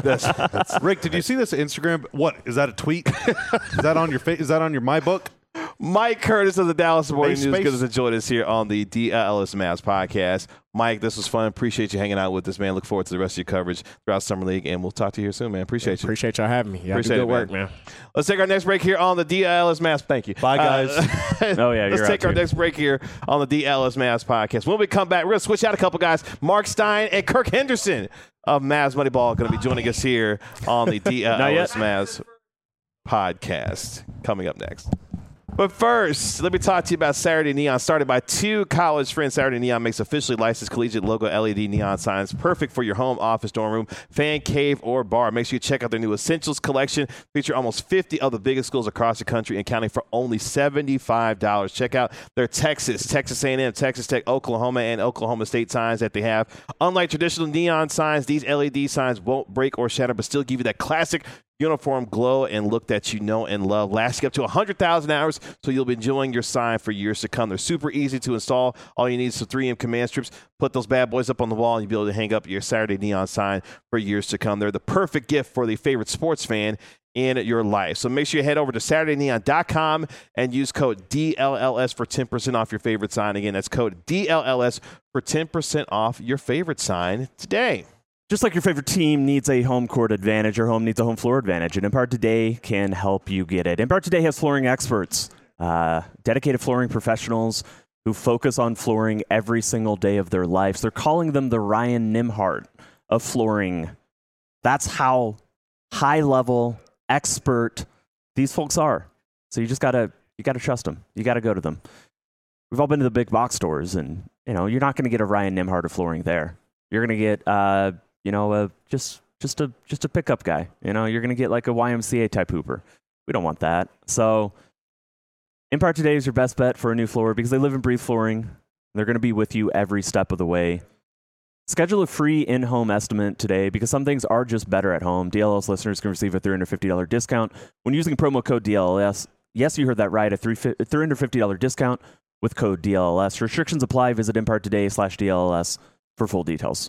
Rick, did you see this Instagram? What is that, a tweet? Is that on your is that on your my book? Mike Curtis of the Dallas Morning Space. News gives us a join us here on the DLS Mavs podcast. Mike, this was fun. Appreciate you hanging out with us, man. Look forward to the rest of your coverage throughout Summer League, and we'll talk to you here soon, man. Appreciate you. Appreciate y'all having me. Y'all Appreciate do it, good work, man. Let's take our next break here on the DLS Mavs. Thank you. Bye, guys. Oh, yeah, Let's you're take out our too. next break here on the DLS Mavs podcast. When we come back, we're going to switch out a couple guys. Mark Stein and Kirk Henderson of Mavs Moneyball going to be joining us here on the DLS Mavs podcast. Coming up next. But first, let me talk to you about Saturday Neon. Started by two college friends, Saturday Neon makes officially licensed collegiate logo LED neon signs, perfect for your home, office, dorm room, fan cave, or bar. Make sure you check out their new Essentials collection. Feature almost 50 of the biggest schools across the country and counting for only $75. Check out their Texas A&M, Texas Tech, Oklahoma, and Oklahoma State signs that they have. Unlike traditional neon signs, these LED signs won't break or shatter, but still give you that classic uniform glow and look that you know and love, lasting up to 100,000 hours, so you'll be enjoying your sign for years to come. They're super easy to install. All you need is some 3M command strips. Put those bad boys up on the wall, and you'll be able to hang up your Saturday Neon sign for years to come. They're the perfect gift for the favorite sports fan in your life. So make sure you head over to SaturdayNeon.com and use code DLLS for 10% off your favorite sign. Again, that's code DLLS for 10% off your favorite sign today. Just like your favorite team needs a home court advantage, your home needs a home floor advantage, and Empire Today can help you get it. Empire Today has flooring experts, dedicated flooring professionals who focus on flooring every single day of their lives. They're calling them the Ryan Nimhart of flooring. That's how high-level, expert these folks are. So you gotta trust them. You gotta go to them. We've all been to the big box stores, and you're not going to get a Ryan Nimhart of flooring there. You're going to get just a pickup guy. You're going to get like a YMCA type hooper. We don't want that. So Empire Today is your best bet for a new floor because they live and breathe flooring. They're going to be with you every step of the way. Schedule a free in-home estimate today because some things are just better at home. DLS listeners can receive a $350 discount when using promo code DLS. Yes, you heard that right, a $350 discount with code DLS. Restrictions apply. Visit EmpireToday/DLS for full details.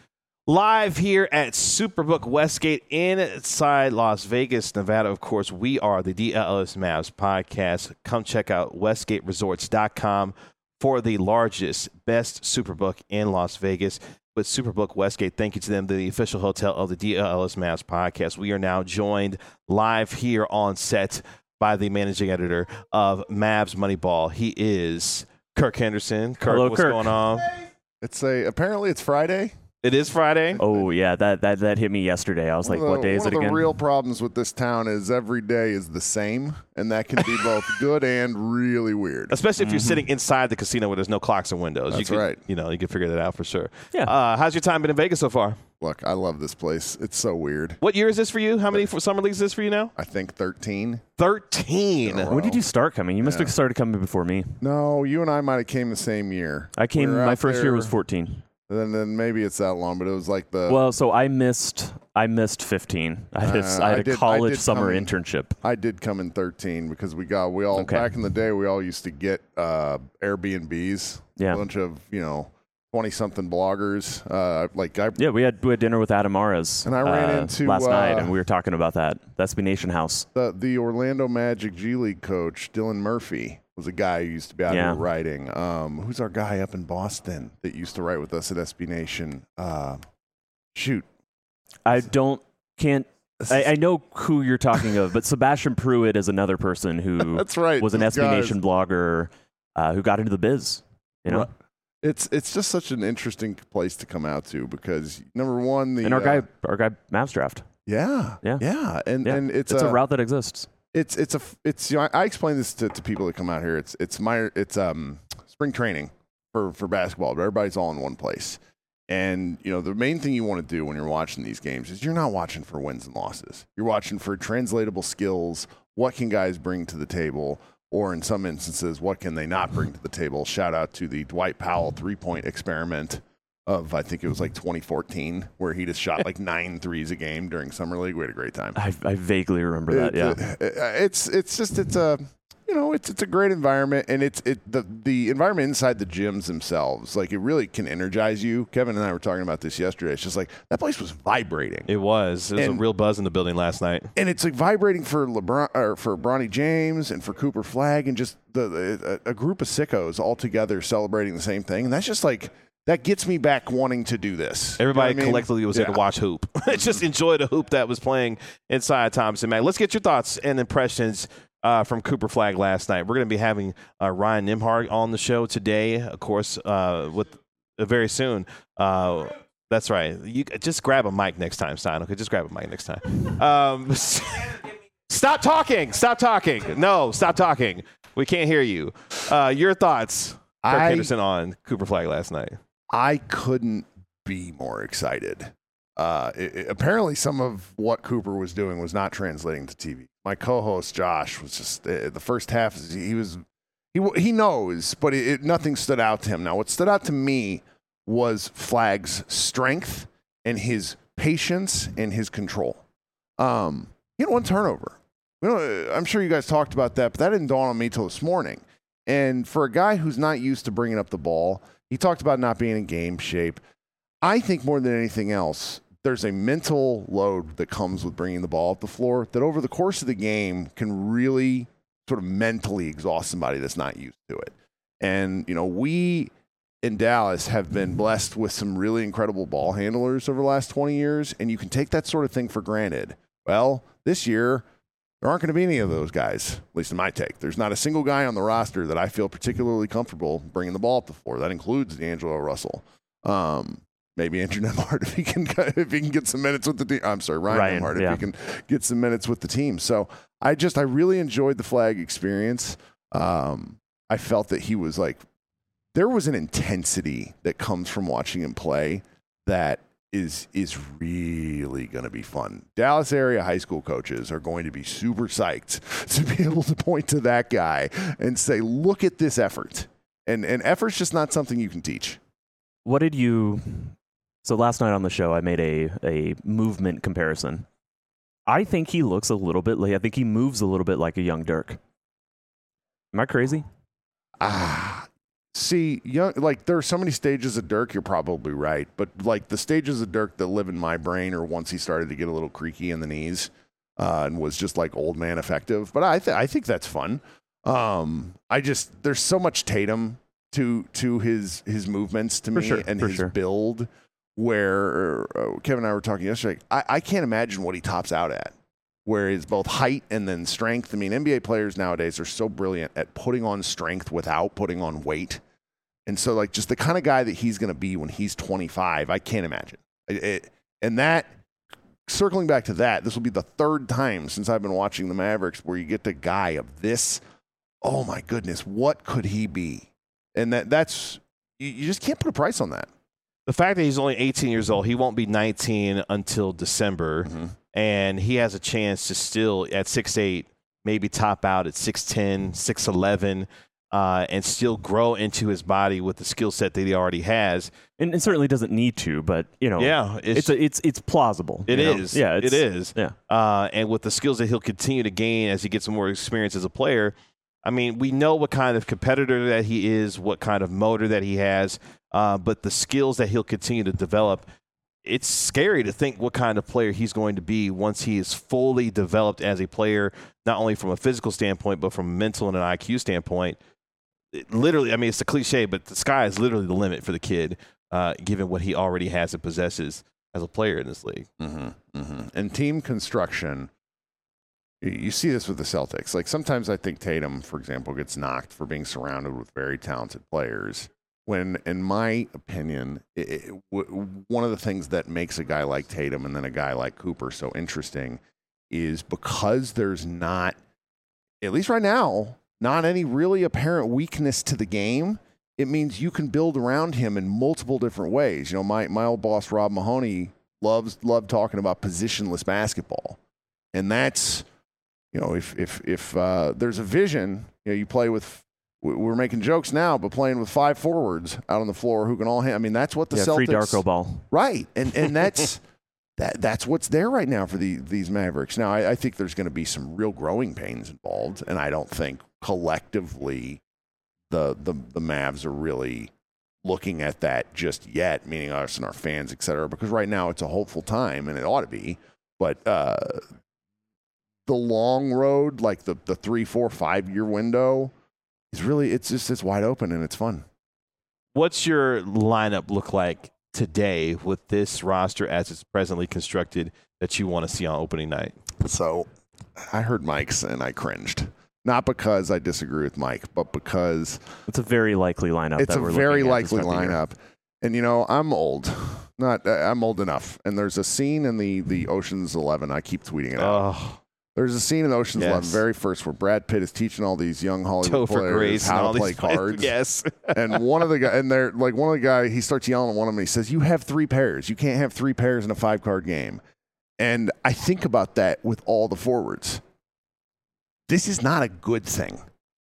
Live here at Superbook Westgate inside Las Vegas, Nevada. Of course, we are the DLS Mavs podcast. Come check out WestgateResorts.com for the largest, best Superbook in Las Vegas. With Superbook Westgate, thank you to them, the official hotel of the DLS Mavs podcast. We are now joined live here on set by the managing editor of Mavs Moneyball. He is Kirk Henderson. Kirk, Hello, what's Kirk. going on? Apparently it's Friday. It is Friday. Oh, yeah, that hit me yesterday. I was like, what day is it One of again? the real problems with this town is every day is the same, and that can be both good and really weird. Especially if you're sitting inside the casino where there's no clocks or windows. That's you can, right. You can figure that out for sure. Yeah. How's your time been in Vegas so far? Look, I love this place. It's so weird. What year is this for you? How many summer leagues is this for you now? I think 13. 13. Oh. When did you start coming? You must have started coming before me. No, you and I might have came the same year. I came, We were my out first year there, was 14. Then maybe it's that long, but it was like the. Well, so I missed 15. I had a college summer internship. I did come in 13 because we all Okay. back in the day we all used to get Airbnbs. Yeah. A bunch of 20-something bloggers. We had dinner with Adam Mares. And I ran into, last night, and we were talking about that. That's SB Nation House. The Orlando Magic G League coach, Dylan Murphy, was a guy who used to be out here writing. Who's our guy up in Boston that used to write with us at SB Nation? Shoot. I know who you're talking of, but Sebastian Pruitt is another person who That's right. was an those SB guys. Nation blogger who got into the biz. Right. It's just such an interesting place to come out to because number one, And our guy Mavs draft. and it's a route that exists. I explain this to people that come out here. It's spring training for basketball, but everybody's all in one place. And the main thing you want to do when you're watching these games is you're not watching for wins and losses. You're watching for translatable skills. What can guys bring to the table? Or in some instances, what can they not bring to the table? Shout out to the Dwight Powell 3-point experiment of, I think it was like 2014, where he just shot like 9 threes a game during Summer League. We had a great time. I vaguely remember that, yeah. it's a great environment, and the environment inside the gyms themselves, like it really can energize you. Kevin and I were talking about this yesterday. It's just like that place was vibrating. It was a real buzz in the building last night, and it's like vibrating for LeBron or for Bronny James and for Cooper Flagg and just a group of sickos all together celebrating the same thing, and that's just like. That gets me back wanting to do this. Everybody collectively was there to watch hoop. Just enjoy the hoop that was playing inside Thompson Mack. Let's get your thoughts and impressions from Cooper Flagg last night. We're going to be having Ryan Nembhard on the show today, of course, very soon. That's right. You just grab a mic next time, Stein. Okay, just grab a mic next time. Stop talking. Stop talking. No, stop talking. We can't hear you. Your thoughts, Kirk Henderson, on Cooper Flagg last night. I couldn't be more excited. Apparently, some of what Cooper was doing was not translating to TV. My co-host Josh was just the first half. He knows, but nothing stood out to him. Now, what stood out to me was Flagg's strength and his patience and his control. He had one turnover. I'm sure you guys talked about that, but that didn't dawn on me till this morning. And for a guy who's not used to bringing up the ball, he talked about not being in game shape. I think more than anything else, there's a mental load that comes with bringing the ball up the floor that over the course of the game can really sort of mentally exhaust somebody that's not used to it. And, we in Dallas have been blessed with some really incredible ball handlers over the last 20 years, and you can take that sort of thing for granted. Well, this year, there aren't going to be any of those guys, at least in my take. There's not a single guy on the roster that I feel particularly comfortable bringing the ball up the floor. That includes D'Angelo Russell. Maybe Andrew Nembhard if he can get some minutes with the team. I'm sorry, Ryan Nembhard if he can get some minutes with the team. So I really enjoyed the Flagg experience. I felt that he was there was an intensity that comes from watching him play that is really going to be fun. Dallas area high school coaches are going to be super psyched to be able to point to that guy and say, look at this effort. And effort's just not something you can teach. So last night on the show, I made a movement comparison. I think he looks a little bit I think he moves a little bit like a young Dirk. Am I crazy? See, there are so many stages of Dirk, you're probably right. But the stages of Dirk that live in my brain are once he started to get a little creaky in the knees and was just old man effective. But I think that's fun. There's so much Tatum to his movements to me and his build where Kevin and I were talking yesterday. I can't imagine what he tops out at. Where it's both height and then strength. I mean, NBA players nowadays are so brilliant at putting on strength without putting on weight. And so, just the kind of guy that he's going to be when he's 25, I can't imagine. And that, circling back to that, this will be the third time since I've been watching the Mavericks where you get the guy of this, oh my goodness, what could he be? And that's, you just can't put a price on that. The fact that he's only 18 years old, he won't be 19 until December. Mm-hmm. And he has a chance to still, at 6'8", maybe top out at 6'10", 6'11", and still grow into his body with the skill set that he already has. And it certainly doesn't need to, but it's plausible. It is. Yeah, it is. Yeah. And with the skills that he'll continue to gain as he gets more experience as a player, I mean, we know what kind of competitor that he is, what kind of motor that he has, but the skills that he'll continue to develop. It's scary to think what kind of player he's going to be once he is fully developed as a player, not only from a physical standpoint, but from a mental and an IQ standpoint. Literally, I mean, it's a cliche, but the sky is literally the limit for the kid, given what he already has and possesses as a player in this league. Mm-hmm, mm-hmm. And team construction, you see this with the Celtics. Sometimes I think Tatum, for example, gets knocked for being surrounded with very talented players. When, in my opinion, one of the things that makes a guy like Tatum and then a guy like Cooper so interesting is because there's not, at least right now, not any really apparent weakness to the game, it means you can build around him in multiple different ways. My old boss, Rob Mahoney, loved talking about positionless basketball. And that's, if there's a vision, you play with, we're making jokes now, but playing with 5 forwards out on the floor who can all I mean, that's what the Celtics. Free Darko ball. Right. And that's that's what's there right now for these Mavericks. Now, I think there's going to be some real growing pains involved, and I don't think collectively the Mavs are really looking at that just yet, meaning us and our fans, et cetera, because right now it's a hopeful time, and it ought to be. But the long road, like the 3, 4, 5 year window, is really it's wide open and it's fun. What's your lineup look like today with this roster as it's presently constructed that you want to see on opening night? So I heard Mike's and I cringed. Not because I disagree with Mike, but because it's a very likely lineup. It's a very likely lineup. And, I'm old. I'm old enough. And there's a scene in the Ocean's 11. I keep tweeting it out. There's a scene in Ocean's 11, very first, where Brad Pitt is teaching all these young Hollywood players how to play cards. Yes. And one of the guys, he starts yelling at one of them. And he says, "You have 3 pairs. You can't have 3 pairs in a 5-card game." And I think about that with all the forwards. This is not a good thing.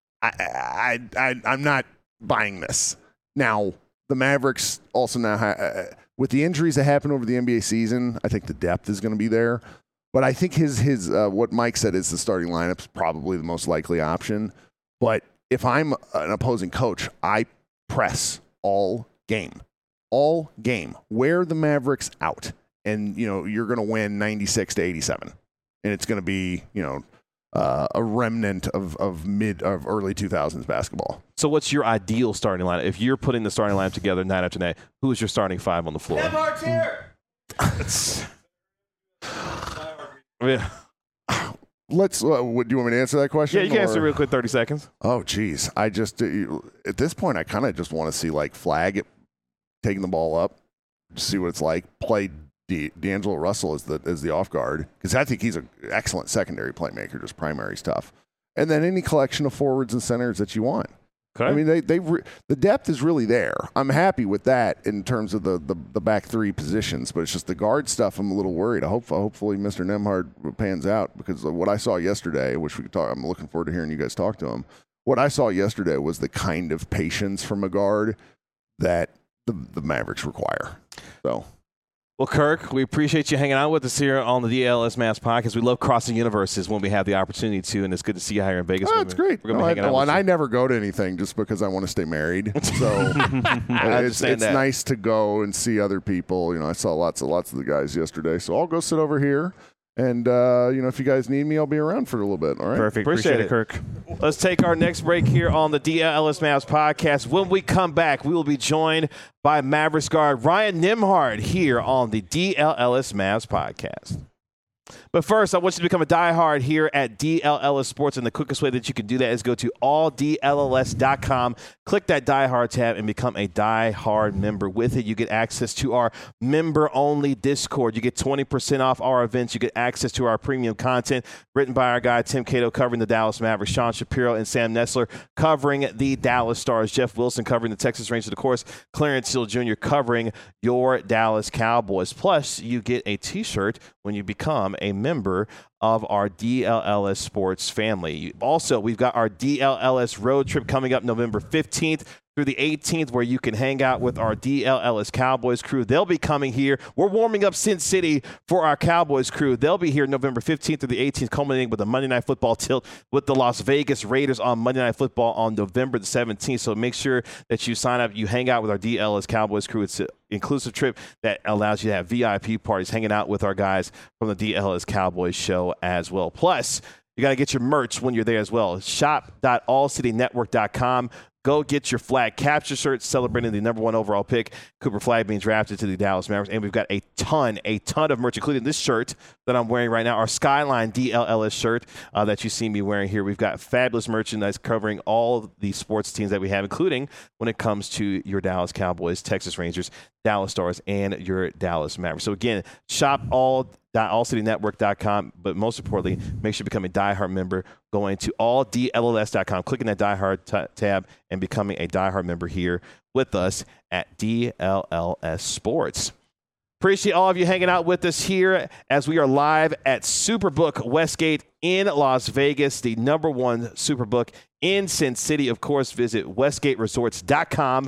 I'm not buying this. Now, the Mavericks also now with the injuries that happened over the NBA season, I think the depth is going to be there. But I think his what Mike said is the starting lineup is probably the most likely option. But if I'm an opposing coach, I press all game. Wear the Mavericks out, and you're going to win 96-87, and it's going to be a remnant of early 2000s basketball. So what's your ideal starting lineup? If you're putting the starting lineup together night after night, who is your starting 5 on the floor? Nembhard's here. Yeah. Let's. Do you want me to answer that question? Yeah, you can answer real quick, 30 seconds. Oh, geez. I just at this point, I kind of just want to see Flag taking the ball up, see what it's like. Play D'Angelo Russell as the off guard, because I think he's an excellent secondary playmaker. Just primary stuff, and then any collection of forwards and centers that you want. Okay. I mean, the depth is really there. I'm happy with that in terms of the back 3 positions, but it's just the guard stuff I'm a little worried. Hopefully Mr. Nembhard pans out, because what I saw yesterday, which we could talk. I'm looking forward to hearing you guys talk to him. What I saw yesterday was the kind of patience from a guard that the Mavericks require. So. Well, Kirk, we appreciate you hanging out with us here on the DLS Mavs podcast. We love crossing universes when we have the opportunity to, and it's good to see you here in Vegas. That's great. We're going to be hanging out. And I never go to anything just because I want to stay married. So it's nice to go and see other people. I saw lots of the guys yesterday. So I'll go sit over here. And, if you guys need me, I'll be around for a little bit. All right. Perfect. Appreciate it, Kirk. Let's take our next break here on the DLS Mavs podcast. When we come back, we will be joined by Mavericks guard Ryan Nembhard here on the DLS Mavs podcast. But first, I want you to become a diehard here at DLLS Sports, and the quickest way that you can do that is go to alldlls.com, click that diehard tab, and become a diehard member. With it, you get access to our member-only Discord. You get 20% off our events. You get access to our premium content written by our guy Tim Cato covering the Dallas Mavericks, Sean Shapiro and Sam Nessler covering the Dallas Stars, Jeff Wilson covering the Texas Rangers, of course, Clarence Hill Jr. covering your Dallas Cowboys. Plus, you get a T-shirt when you become a member of our DLLS Sports family. Also, we've got our DLLS road trip coming up November 15th through the 18th, where you can hang out with our DLLS Cowboys crew. They'll be coming here. We're warming up Sin City for our Cowboys crew. They'll be here November 15th through the 18th, culminating with a Monday Night Football tilt with the Las Vegas Raiders on Monday Night Football on November the 17th. So make sure that you sign up, you hang out with our DLLS Cowboys crew. It's an inclusive trip that allows you to have VIP parties, hanging out with our guys from the DLLS Cowboys show as well. Plus, you got to get your merch when you're there as well. Shop.allcitynetwork.com. Go get your Flag Capture shirt celebrating the number 1 overall pick, Cooper Flag, being drafted to the Dallas Mavericks. And we've got a ton of merch, including this shirt that I'm wearing right now, our Skyline DLLS shirt that you see me wearing here. We've got fabulous merchandise covering all the sports teams that we have, including when it comes to your Dallas Cowboys, Texas Rangers, Dallas Stars, and your Dallas Mavericks. So again, shop allcitynetwork.com, but most importantly, make sure you become a diehard member going to alldlls.com, clicking that diehard tab, and becoming a diehard member here with us at DLLS Sports. Appreciate all of you hanging out with us here as we are live at Superbook Westgate in Las Vegas, the number 1 Superbook in Sin City. Of course, visit westgateresorts.com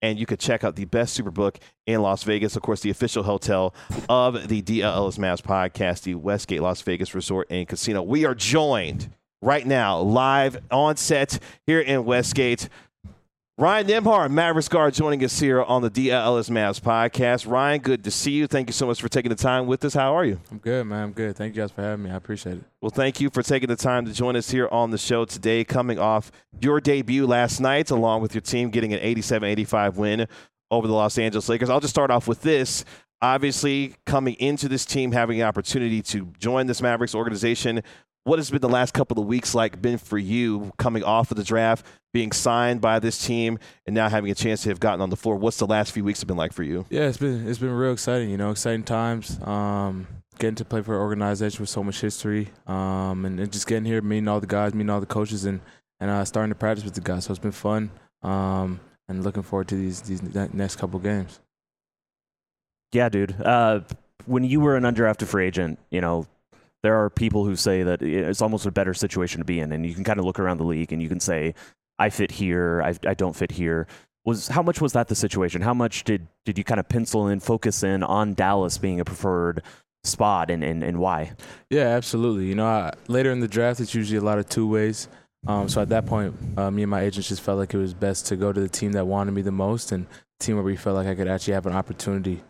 and you could check out the best Superbook in Las Vegas. Of course, the official hotel of the DL Ellis Mavs podcast, the Westgate Las Vegas Resort and Casino. We are joined right now, live on set here in Westgate. Ryan Nembhard, Mavericks guard, joining us here on the DL Ellis Mavs podcast. Ryan, good to see you. Thank you so much for taking the time with us. How are you? I'm good, man. I'm good. Thank you guys for having me. I appreciate it. Well, thank you for taking the time to join us here on the show today, coming off your debut last night, along with your team getting an 87-85 win over the Los Angeles Lakers. I'll just start off with this. Obviously, coming into this team, having an opportunity to join this Mavericks organization, what has been the last couple of weeks been for you coming off of the draft, being signed by this team, and now having a chance to have gotten on the floor? What's the last few weeks have been like for you? Yeah, it's been real exciting. Exciting times. Getting to play for an organization with so much history, and just getting here, meeting all the guys, meeting all the coaches, and starting to practice with the guys. So it's been fun, and looking forward to these next couple games. Yeah, dude. When you were an undrafted free agent, there are people who say that it's almost a better situation to be in, and you can kind of look around the league and you can say, I fit here, I don't fit here. How much was that the situation? How much did you kind of pencil in, focus in on Dallas being a preferred spot, and why? Yeah, absolutely. Later in the draft, it's usually a lot of two ways. So at that point, me and my agents just felt like it was best to go to the team that wanted me the most, and the team where we felt like I could actually have an opportunity.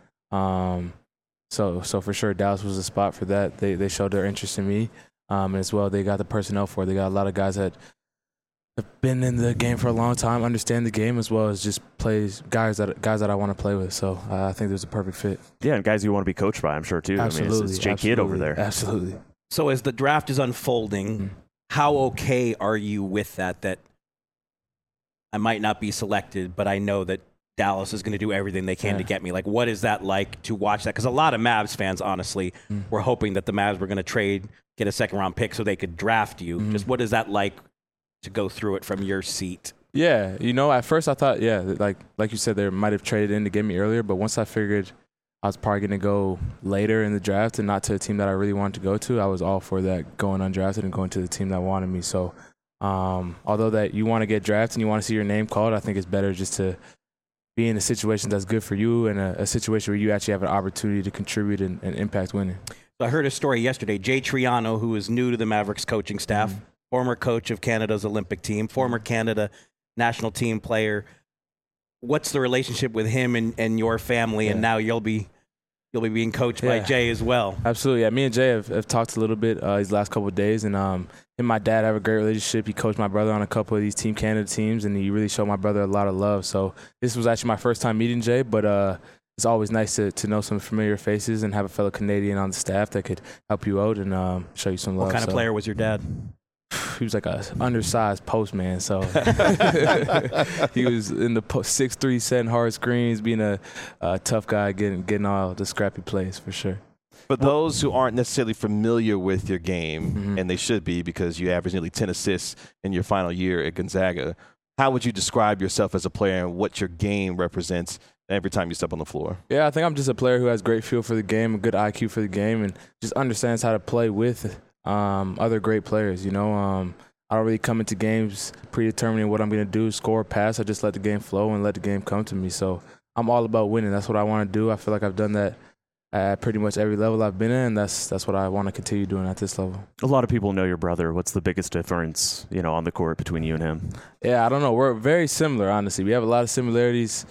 So for sure, Dallas was a spot for that. They showed their interest in me, and as well, they got the personnel for it. They got a lot of guys that have been in the game for a long time, understand the game, as well as just guys that I want to play with. So I think there's a perfect fit. Yeah, and guys you want to be coached by, I'm sure too. Absolutely, I mean, it's Jake Kidd over there. Absolutely. So as the draft is unfolding, how okay are you with that I might not be selected, but I know that Dallas is going to do everything they can to get me? Like, what is that like to watch that? Because a lot of Mavs fans, honestly, were hoping that the Mavs were going to get a second-round pick so they could draft you. Just what is that like to go through it from your seat? Yeah, at first I thought, like you said, they might have traded in to get me earlier, but once I figured I was probably going to go later in the draft and not to a team that I really wanted to go to, I was all for that, going undrafted and going to the team that wanted me. So although that you want to get drafted and you want to see your name called, I think it's better just to be in a situation that's good for you and a situation where you actually have an opportunity to contribute and impact winning. So I heard a story yesterday. Jay Triano, who is new to the Mavericks coaching staff, former coach of Canada's Olympic team, former Canada national team player. What's the relationship with him and your family? And now you'll be being coached by Jay as well. Absolutely. Yeah, me and Jay have talked a little bit these last couple of days, and him and my dad have a great relationship. He coached my brother on a couple of these Team Canada teams, and he really showed my brother a lot of love. So this was actually my first time meeting Jay, but it's always nice to know some familiar faces and have a fellow Canadian on the staff that could help you out and show you some love. What kind of player was your dad? He was like a undersized postman, so he was in the 6'3", setting hard screens, being a tough guy, getting all the scrappy plays for sure. For those who aren't necessarily familiar with your game, and they should be because you averaged nearly 10 assists in your final year at Gonzaga, how would you describe yourself as a player and what your game represents every time you step on the floor? Yeah, I think I'm just a player who has great feel for the game, a good IQ for the game, and just understands how to play with other great players. I don't really come into games predetermining what I'm going to do, score, pass. I just let the game flow and let the game come to me. So I'm all about winning. That's what I want to do. I feel like I've done that at pretty much every level I've been in, and that's what I want to continue doing at this level. A lot of people know your brother. What's the biggest difference, on the court between you and him? Yeah, I don't know. We're very similar, honestly. We have a lot of similarities.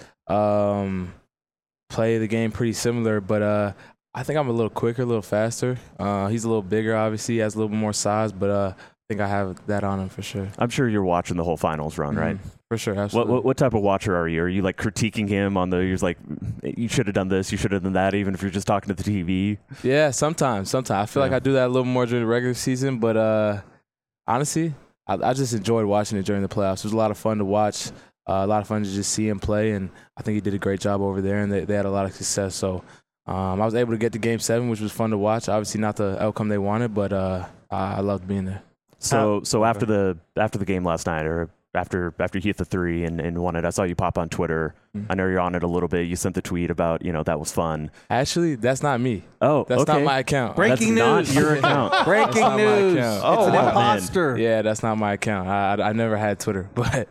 Play the game pretty similar, but I think I'm a little quicker, a little faster. He's a little bigger, obviously. He has a little bit more size, but I think I have that on him for sure. I'm sure you're watching the whole finals run, right? For sure, absolutely. What type of watcher are you? Are you like critiquing him on you're like, you should have done this, you should have done that, even if you're just talking to the TV? Yeah, sometimes. I feel like I do that a little more during the regular season, but honestly, I just enjoyed watching it during the playoffs. It was a lot of fun to watch, a lot of fun to just see him play, and I think he did a great job over there, and they had a lot of success. So I was able to get to Game 7, which was fun to watch. Obviously not the outcome they wanted, but I loved being there. So after the game last night, or after you hit the three and won it, I saw you pop on Twitter. I know you're on it a little bit. You sent the tweet about, that was fun. Actually, that's not me. Oh, that's okay. not my account. Breaking that's news. Not your account. Breaking news. It's an imposter. Yeah, that's not my account. I never had Twitter, but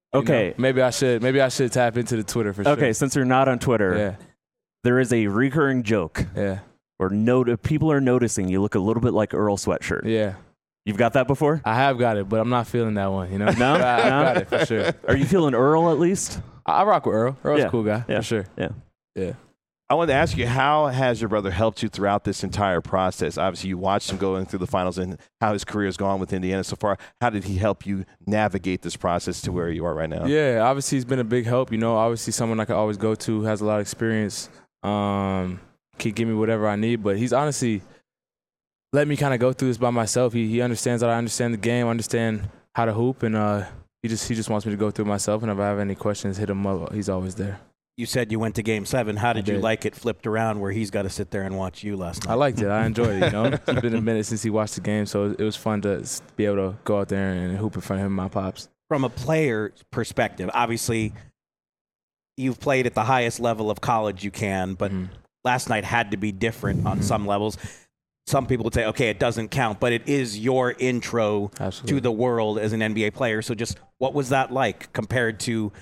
You Okay. know, maybe I should tap into the Twitter for sure. Okay, since you're not on Twitter, there is a recurring joke where people are noticing you look a little bit like Earl Sweatshirt. Yeah. You've got that before? I have got it, but I'm not feeling that one, you know? No? I got it for sure. Are you feeling Earl at least? I rock with Earl. Earl's Yeah. a cool guy, Yeah. for sure. Yeah. I wanted to ask you, how has your brother helped you throughout this entire process? Obviously, you watched him going through the finals and how his career has gone with Indiana so far. How did he help you navigate this process to where you are right now? Yeah, obviously he's been a big help. You know, obviously someone I could always go to, has a lot of experience, can give me whatever I need. But he's honestly let me kind of go through this by myself. He understands that I understand the game, understand how to hoop, and he just wants me to go through it myself. And if I have any questions, hit him up. He's always there. You said you went to Game 7. How did you did. like it flipped around where he's got to sit there and watch you last night? I liked it. I enjoyed it, you know. It's been a minute since he watched the game, so it was fun to be able to go out there and hoop in front of him and my pops. From a player perspective, obviously you've played at the highest level of college you can, but last night had to be different on some levels. Some people would say, okay, it doesn't count, but it is your intro to the world as an NBA player. So just what was that like compared to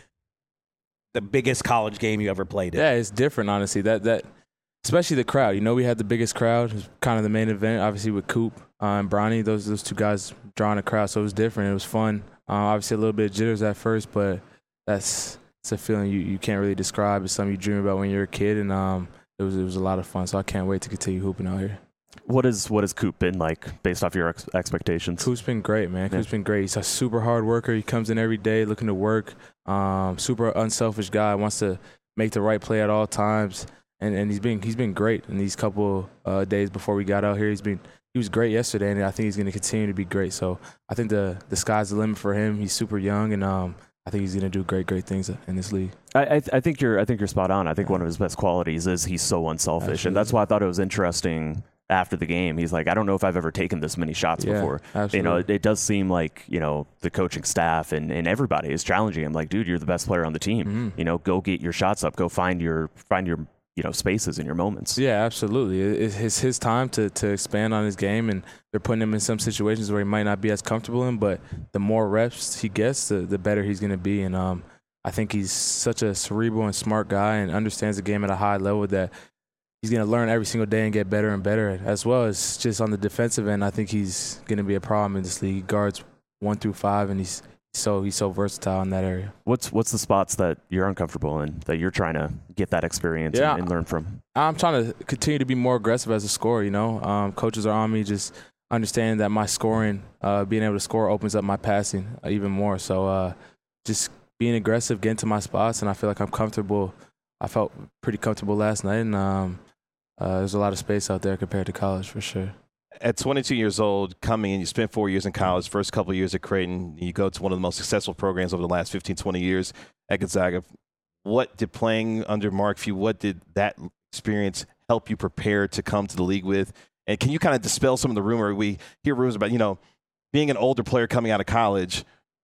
the biggest college game you ever played in? Yeah, it's different, honestly. That especially the crowd. You know, we had the biggest crowd. It was kind of the main event, obviously, with Coop and Bronny. Those two guys drawing a crowd, so it was different. It was fun. Obviously, a little bit of jitters at first, but it's a feeling you can't really describe. It's something you dream about when you're a kid, and it was a lot of fun. So I can't wait to continue hooping out here. What has Coop been like based off your expectations? Coop's been great, man. Coop's been great. He's a super hard worker. He comes in every day looking to work. Super unselfish guy. Wants to make the right play at all times. And he's been great in these couple days before we got out here. He was great yesterday, and I think he's going to continue to be great. So I think the sky's the limit for him. He's super young, and I think he's going to do great things in this league. I think you're spot on. I think one of his best qualities is he's so unselfish, Absolutely. and that's why I thought it was interesting. After the game, he's like, I don't know if I've ever taken this many shots before. Absolutely. You know, it does seem like, you know, the coaching staff and everybody is challenging him. Like, dude, you're the best player on the team. You know, go get your shots up. Go find your you know, spaces and your moments. Yeah, absolutely. It's his time to expand on his game, and they're putting him in some situations where he might not be as comfortable in, but the more reps he gets, the better he's going to be. And I think he's such a cerebral and smart guy and understands the game at a high level that he's going to learn every single day and get better and better, as well as just on the defensive end. I think he's going to be a problem in this league. He guards 1 through 5, and he's so versatile in that area. What's the spots that you're uncomfortable in that you're trying to get that experience and learn from? I'm trying to continue to be more aggressive as a scorer. You know, coaches are on me, just understanding that my scoring, being able to score, opens up my passing even more. So just being aggressive, getting to my spots, and I feel like I'm comfortable. I felt pretty comfortable last night, and there's a lot of space out there compared to college for sure. At 22 years old, coming in, you spent 4 years in college, first couple of years at Creighton. You go to one of the most successful programs over the last 15, 20 years at Gonzaga. What did playing under Mark Few, what did that experience help you prepare to come to the league with? And can you kind of dispel some of the rumor? We hear rumors about, you know, being an older player coming out of college,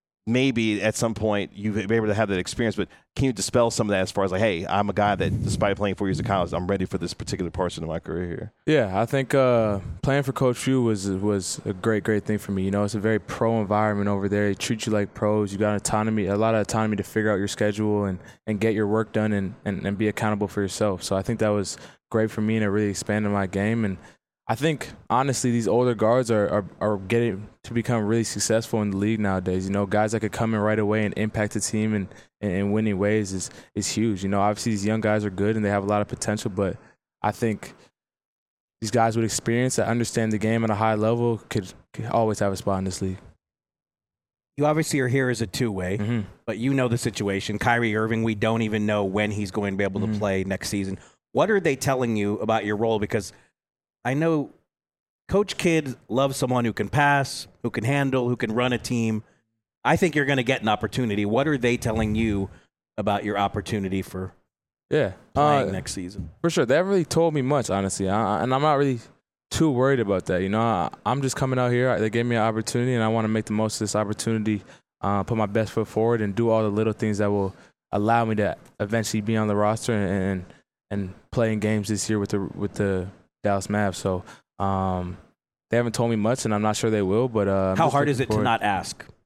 maybe at some point you've been able to have that experience, but can you dispel some of that as far as like, hey, I'm a guy that despite playing 4 years of college, I'm ready for this particular portion of my career here? Yeah, I think playing for Coach Few was a great thing for me. You know, it's a very pro environment over there. They treat you like pros. You got autonomy, a lot of autonomy to figure out your schedule and get your work done and be accountable for yourself. So I think that was great for me, and it really expanded my game. And I think, honestly, these older guards are getting to become really successful in the league nowadays. You know, guys that could come in right away and impact the team in winning ways is huge. You know, obviously these young guys are good and they have a lot of potential, but I think these guys with experience that understand the game at a high level could always have a spot in this league. You obviously are here as a two-way, but you know the situation. Kyrie Irving, we don't even know when he's going to be able to play next season. What are they telling you about your role? Because I know Coach Kidd loves someone who can pass, who can handle, who can run a team. I think you're going to get an opportunity. What are they telling you about your opportunity for playing next season? For sure. They haven't really told me much, honestly, and I'm not really too worried about that. You know, I'm just coming out here. They gave me an opportunity, and I want to make the most of this opportunity, put my best foot forward, and do all the little things that will allow me to eventually be on the roster and play in games this year with the Dallas Mavs. So they haven't told me much, and I'm not sure they will. But how hard is it to not ask?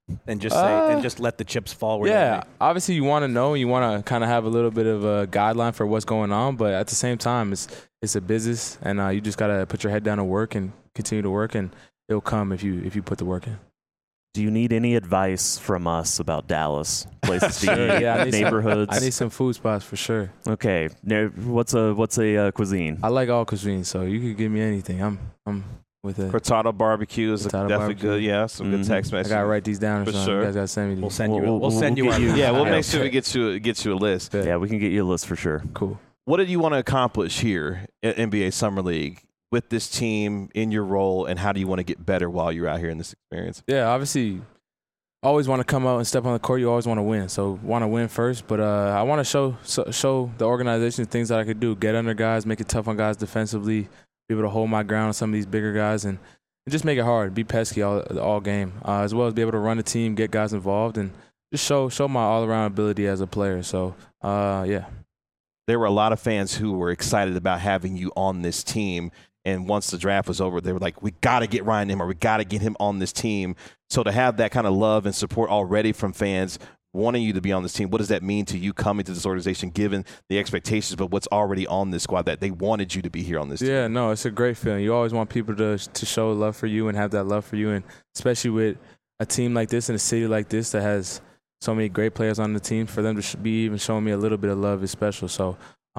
and just let the chips fall where they Yeah, may? obviously you want to know, you want to kind of have a little bit of a guideline for what's going on, but at the same time, it's a business, and you just gotta put your head down and work and continue to work, and it'll come if you put the work in. Do you need any advice from us about Dallas? Places to Sure, eat, yeah, I need neighborhoods? I need some food spots for sure. Okay, now, what's a cuisine? I like all cuisines, so you could give me anything. I'm with it. Cortado barbecue is Cortado definitely barbecue. good. Yeah, some good text I messages. gotta write these down or For something. sure. You guys gotta send me these. We'll send you. We'll We'll send you. get you- Yeah, we'll Yeah. make sure we get you a list. Good. Yeah, we can get you a list for sure. Cool. What did you want to accomplish here at NBA Summer League with this team in your role, and how do you want to get better while you're out here in this experience? Yeah, obviously, always want to come out and step on the court. You always want to win, so want to win first. But I want to show the organization things that I could do. Get under guys, make it tough on guys defensively, be able to hold my ground on some of these bigger guys, and just make it hard. Be pesky all game, as well as be able to run the team, get guys involved, and just show my all around ability as a player. So yeah. There were a lot of fans who were excited about having you on this team. And once the draft was over, they were like, we got to get Ryan Nembhard. We got to get him on this team. So to have that kind of love and support already from fans wanting you to be on this team, what does that mean to you coming to this organization, given the expectations, but what's already on this squad, that they wanted you to be here on this team? Yeah, no, it's a great feeling. You always want people to show love for you and have that love for you. And especially with a team like this in a city like this that has so many great players on the team, for them to be even showing me a little bit of love is special. So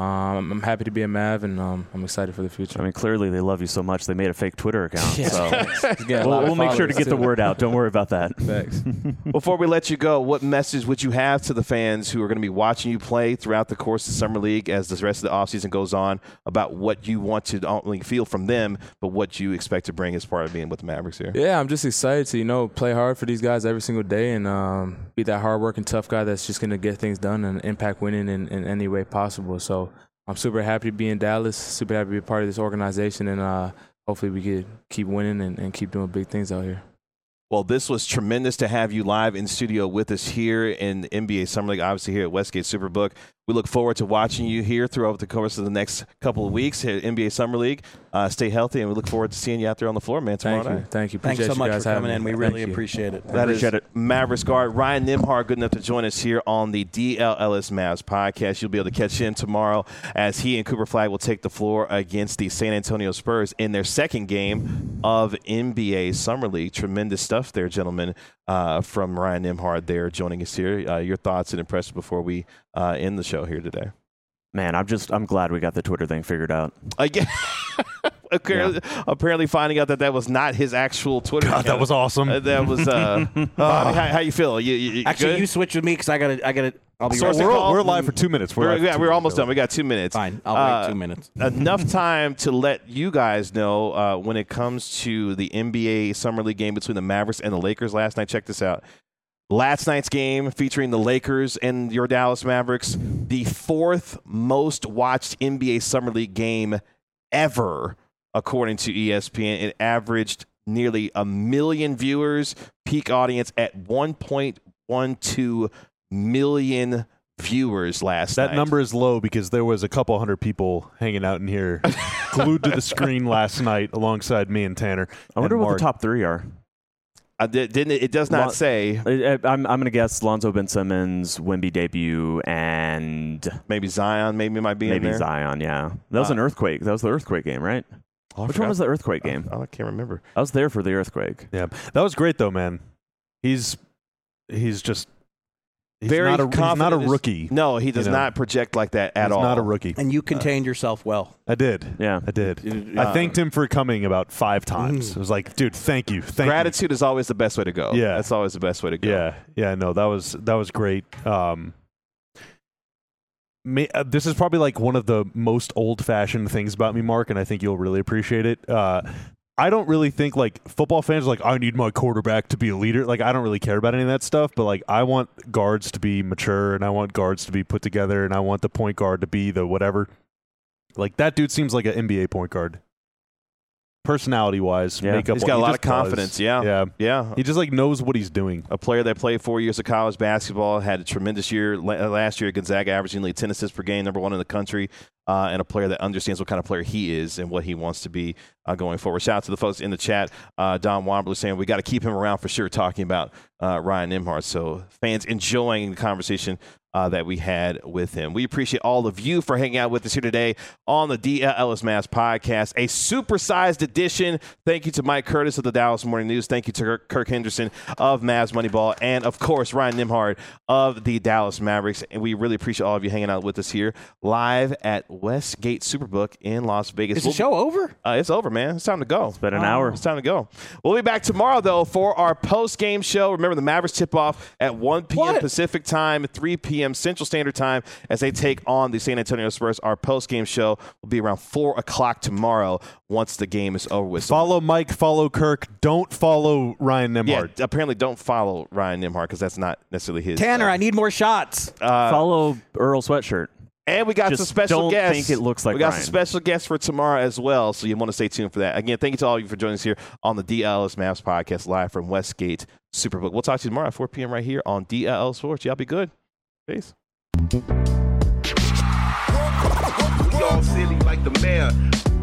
I'm happy to be a Mav, and I'm excited for the future. I mean, clearly they love you so much they made a fake Twitter account. Yeah. So Get a lot we'll of make sure to followers, get the too. word out. Don't worry about that. Thanks. Before we let you go, what message would you have to the fans who are going to be watching you play throughout the course of Summer League as the rest of the offseason goes on, about what you want to not only feel from them, but what you expect to bring as part of being with the Mavericks here? Yeah, I'm just excited to, play hard for these guys every single day and be that hard-working, tough guy that's just going to get things done and impact winning in any way possible. So I'm super happy to be in Dallas, super happy to be a part of this organization, and hopefully we could keep winning and keep doing big things out here. Well, this was tremendous to have you live in studio with us here in the NBA Summer League, obviously here at Westgate Superbook. We look forward to watching you here throughout the course of the next couple of weeks here at NBA Summer League. Stay healthy, and we look forward to seeing you out there on the floor, man, tomorrow night. Thank you. Thanks Appreciate so you much guys for coming having in. me. We really Thank you. appreciate it. That is Appreciate it. Mavericks guard Ryan Nembhard, good enough to join us here on the DLLS Mavs podcast. You'll be able to catch him tomorrow as he and Cooper Flagg will take the floor against the San Antonio Spurs in their second game of NBA Summer League. Tremendous stuff there, gentlemen, from Ryan Nembhard there joining us here. Your thoughts and impressions before we end the show here today. Man, I'm glad we got the Twitter thing figured out. Again. Apparently finding out that was not his actual Twitter God, account. that was awesome. That was Bobby, how you feel? You Actually, good? you switch with me because I gotta. I'll be Source right and back. call? We're live for 2 minutes. We're almost done. We got 2 minutes. Fine. I'll wait 2 minutes. Enough time to let you guys know when it comes to the NBA Summer League game between the Mavericks and the Lakers last night. Check this out. Last night's game featuring the Lakers and your Dallas Mavericks, the fourth most watched NBA Summer League game ever, according to ESPN. It averaged nearly 1 million viewers, peak audience at 1.12 million viewers last night. That number is low because there was a couple hundred people hanging out in here glued to the screen last night alongside me and Tanner. I wonder and what Mark. the top three are. It does not say. I'm going to guess Lonzo Ben Simmons, Wemby debut, and Maybe Zion maybe might be in maybe there. Zion, yeah. That was an earthquake. That was the earthquake game, right? Oh, I Which forgot. one was the earthquake game? I can't remember. I was there for the earthquake. Yeah, that was great though, man. He's just Very not a, he's not a confident. rookie. No, he does You know. not project like that at he's all. not a rookie. And you contained yourself well. I did. Yeah. I did. I thanked him for coming about 5 times. I was like, dude, thank you. Thank you. Gratitude is always the best way to go. Yeah. That's always the best way to go. Yeah, no, that was great. This is probably like one of the most old-fashioned things about me, Mark, and I think you'll really appreciate it. I don't really think like football fans are like, I need my quarterback to be a leader. Like, I don't really care about any of that stuff, but like I want guards to be mature and I want guards to be put together and I want the point guard to be the whatever. Like that dude seems like an NBA point guard. personality-wise, Yeah. makeup. He's got a lot of just does. confidence. Yeah. Yeah. Yeah. He just like knows what he's doing. A player that played 4 years of college basketball, had a tremendous year last year at Gonzaga, averaging nearly 10 assists per game, number one in the country, and a player that understands what kind of player he is and what he wants to be going forward. Shout out to the folks in the chat. Don Wambler saying we got to keep him around for sure, talking about Ryan Nembhard. So fans enjoying the conversation that we had with him. We appreciate all of you for hanging out with us here today on the DL Ellis Mavs podcast, a supersized edition. Thank you to Mike Curtis of the Dallas Morning News. Thank you to Kirk Henderson of Mavs Moneyball, and of course Ryan Nembhard of the Dallas Mavericks. And we really appreciate all of you hanging out with us here live at Westgate Superbook in Las Vegas. Is the show over? It's over, man. It's time to go. It's been an hour. It's time to go. We'll be back tomorrow, though, for our post-game show. Remember, the Mavericks tip off at 1 p.m. Pacific time, 3 p.m. Central Standard Time as they take on the San Antonio Spurs. Our post-game show will be around 4 o'clock tomorrow once the game is over with. So, Follow Mike, follow Kirk. Don't follow Ryan Nembhard. yeah, apparently don't follow Ryan Nembhard because that's not necessarily his. Tanner, I need more shots. Follow Earl Sweatshirt. And we got Just some special don't guests. think it looks like we got Ryan. some special guests for tomorrow as well, so you want to stay tuned for that. Again, thank you to all of you for joining us here on the DLS Mavs podcast live from Westgate Superbook. We'll talk to you tomorrow at 4 p.m. right here on DLL Sports. Y'all be good. Peace. We all silly like the mayor.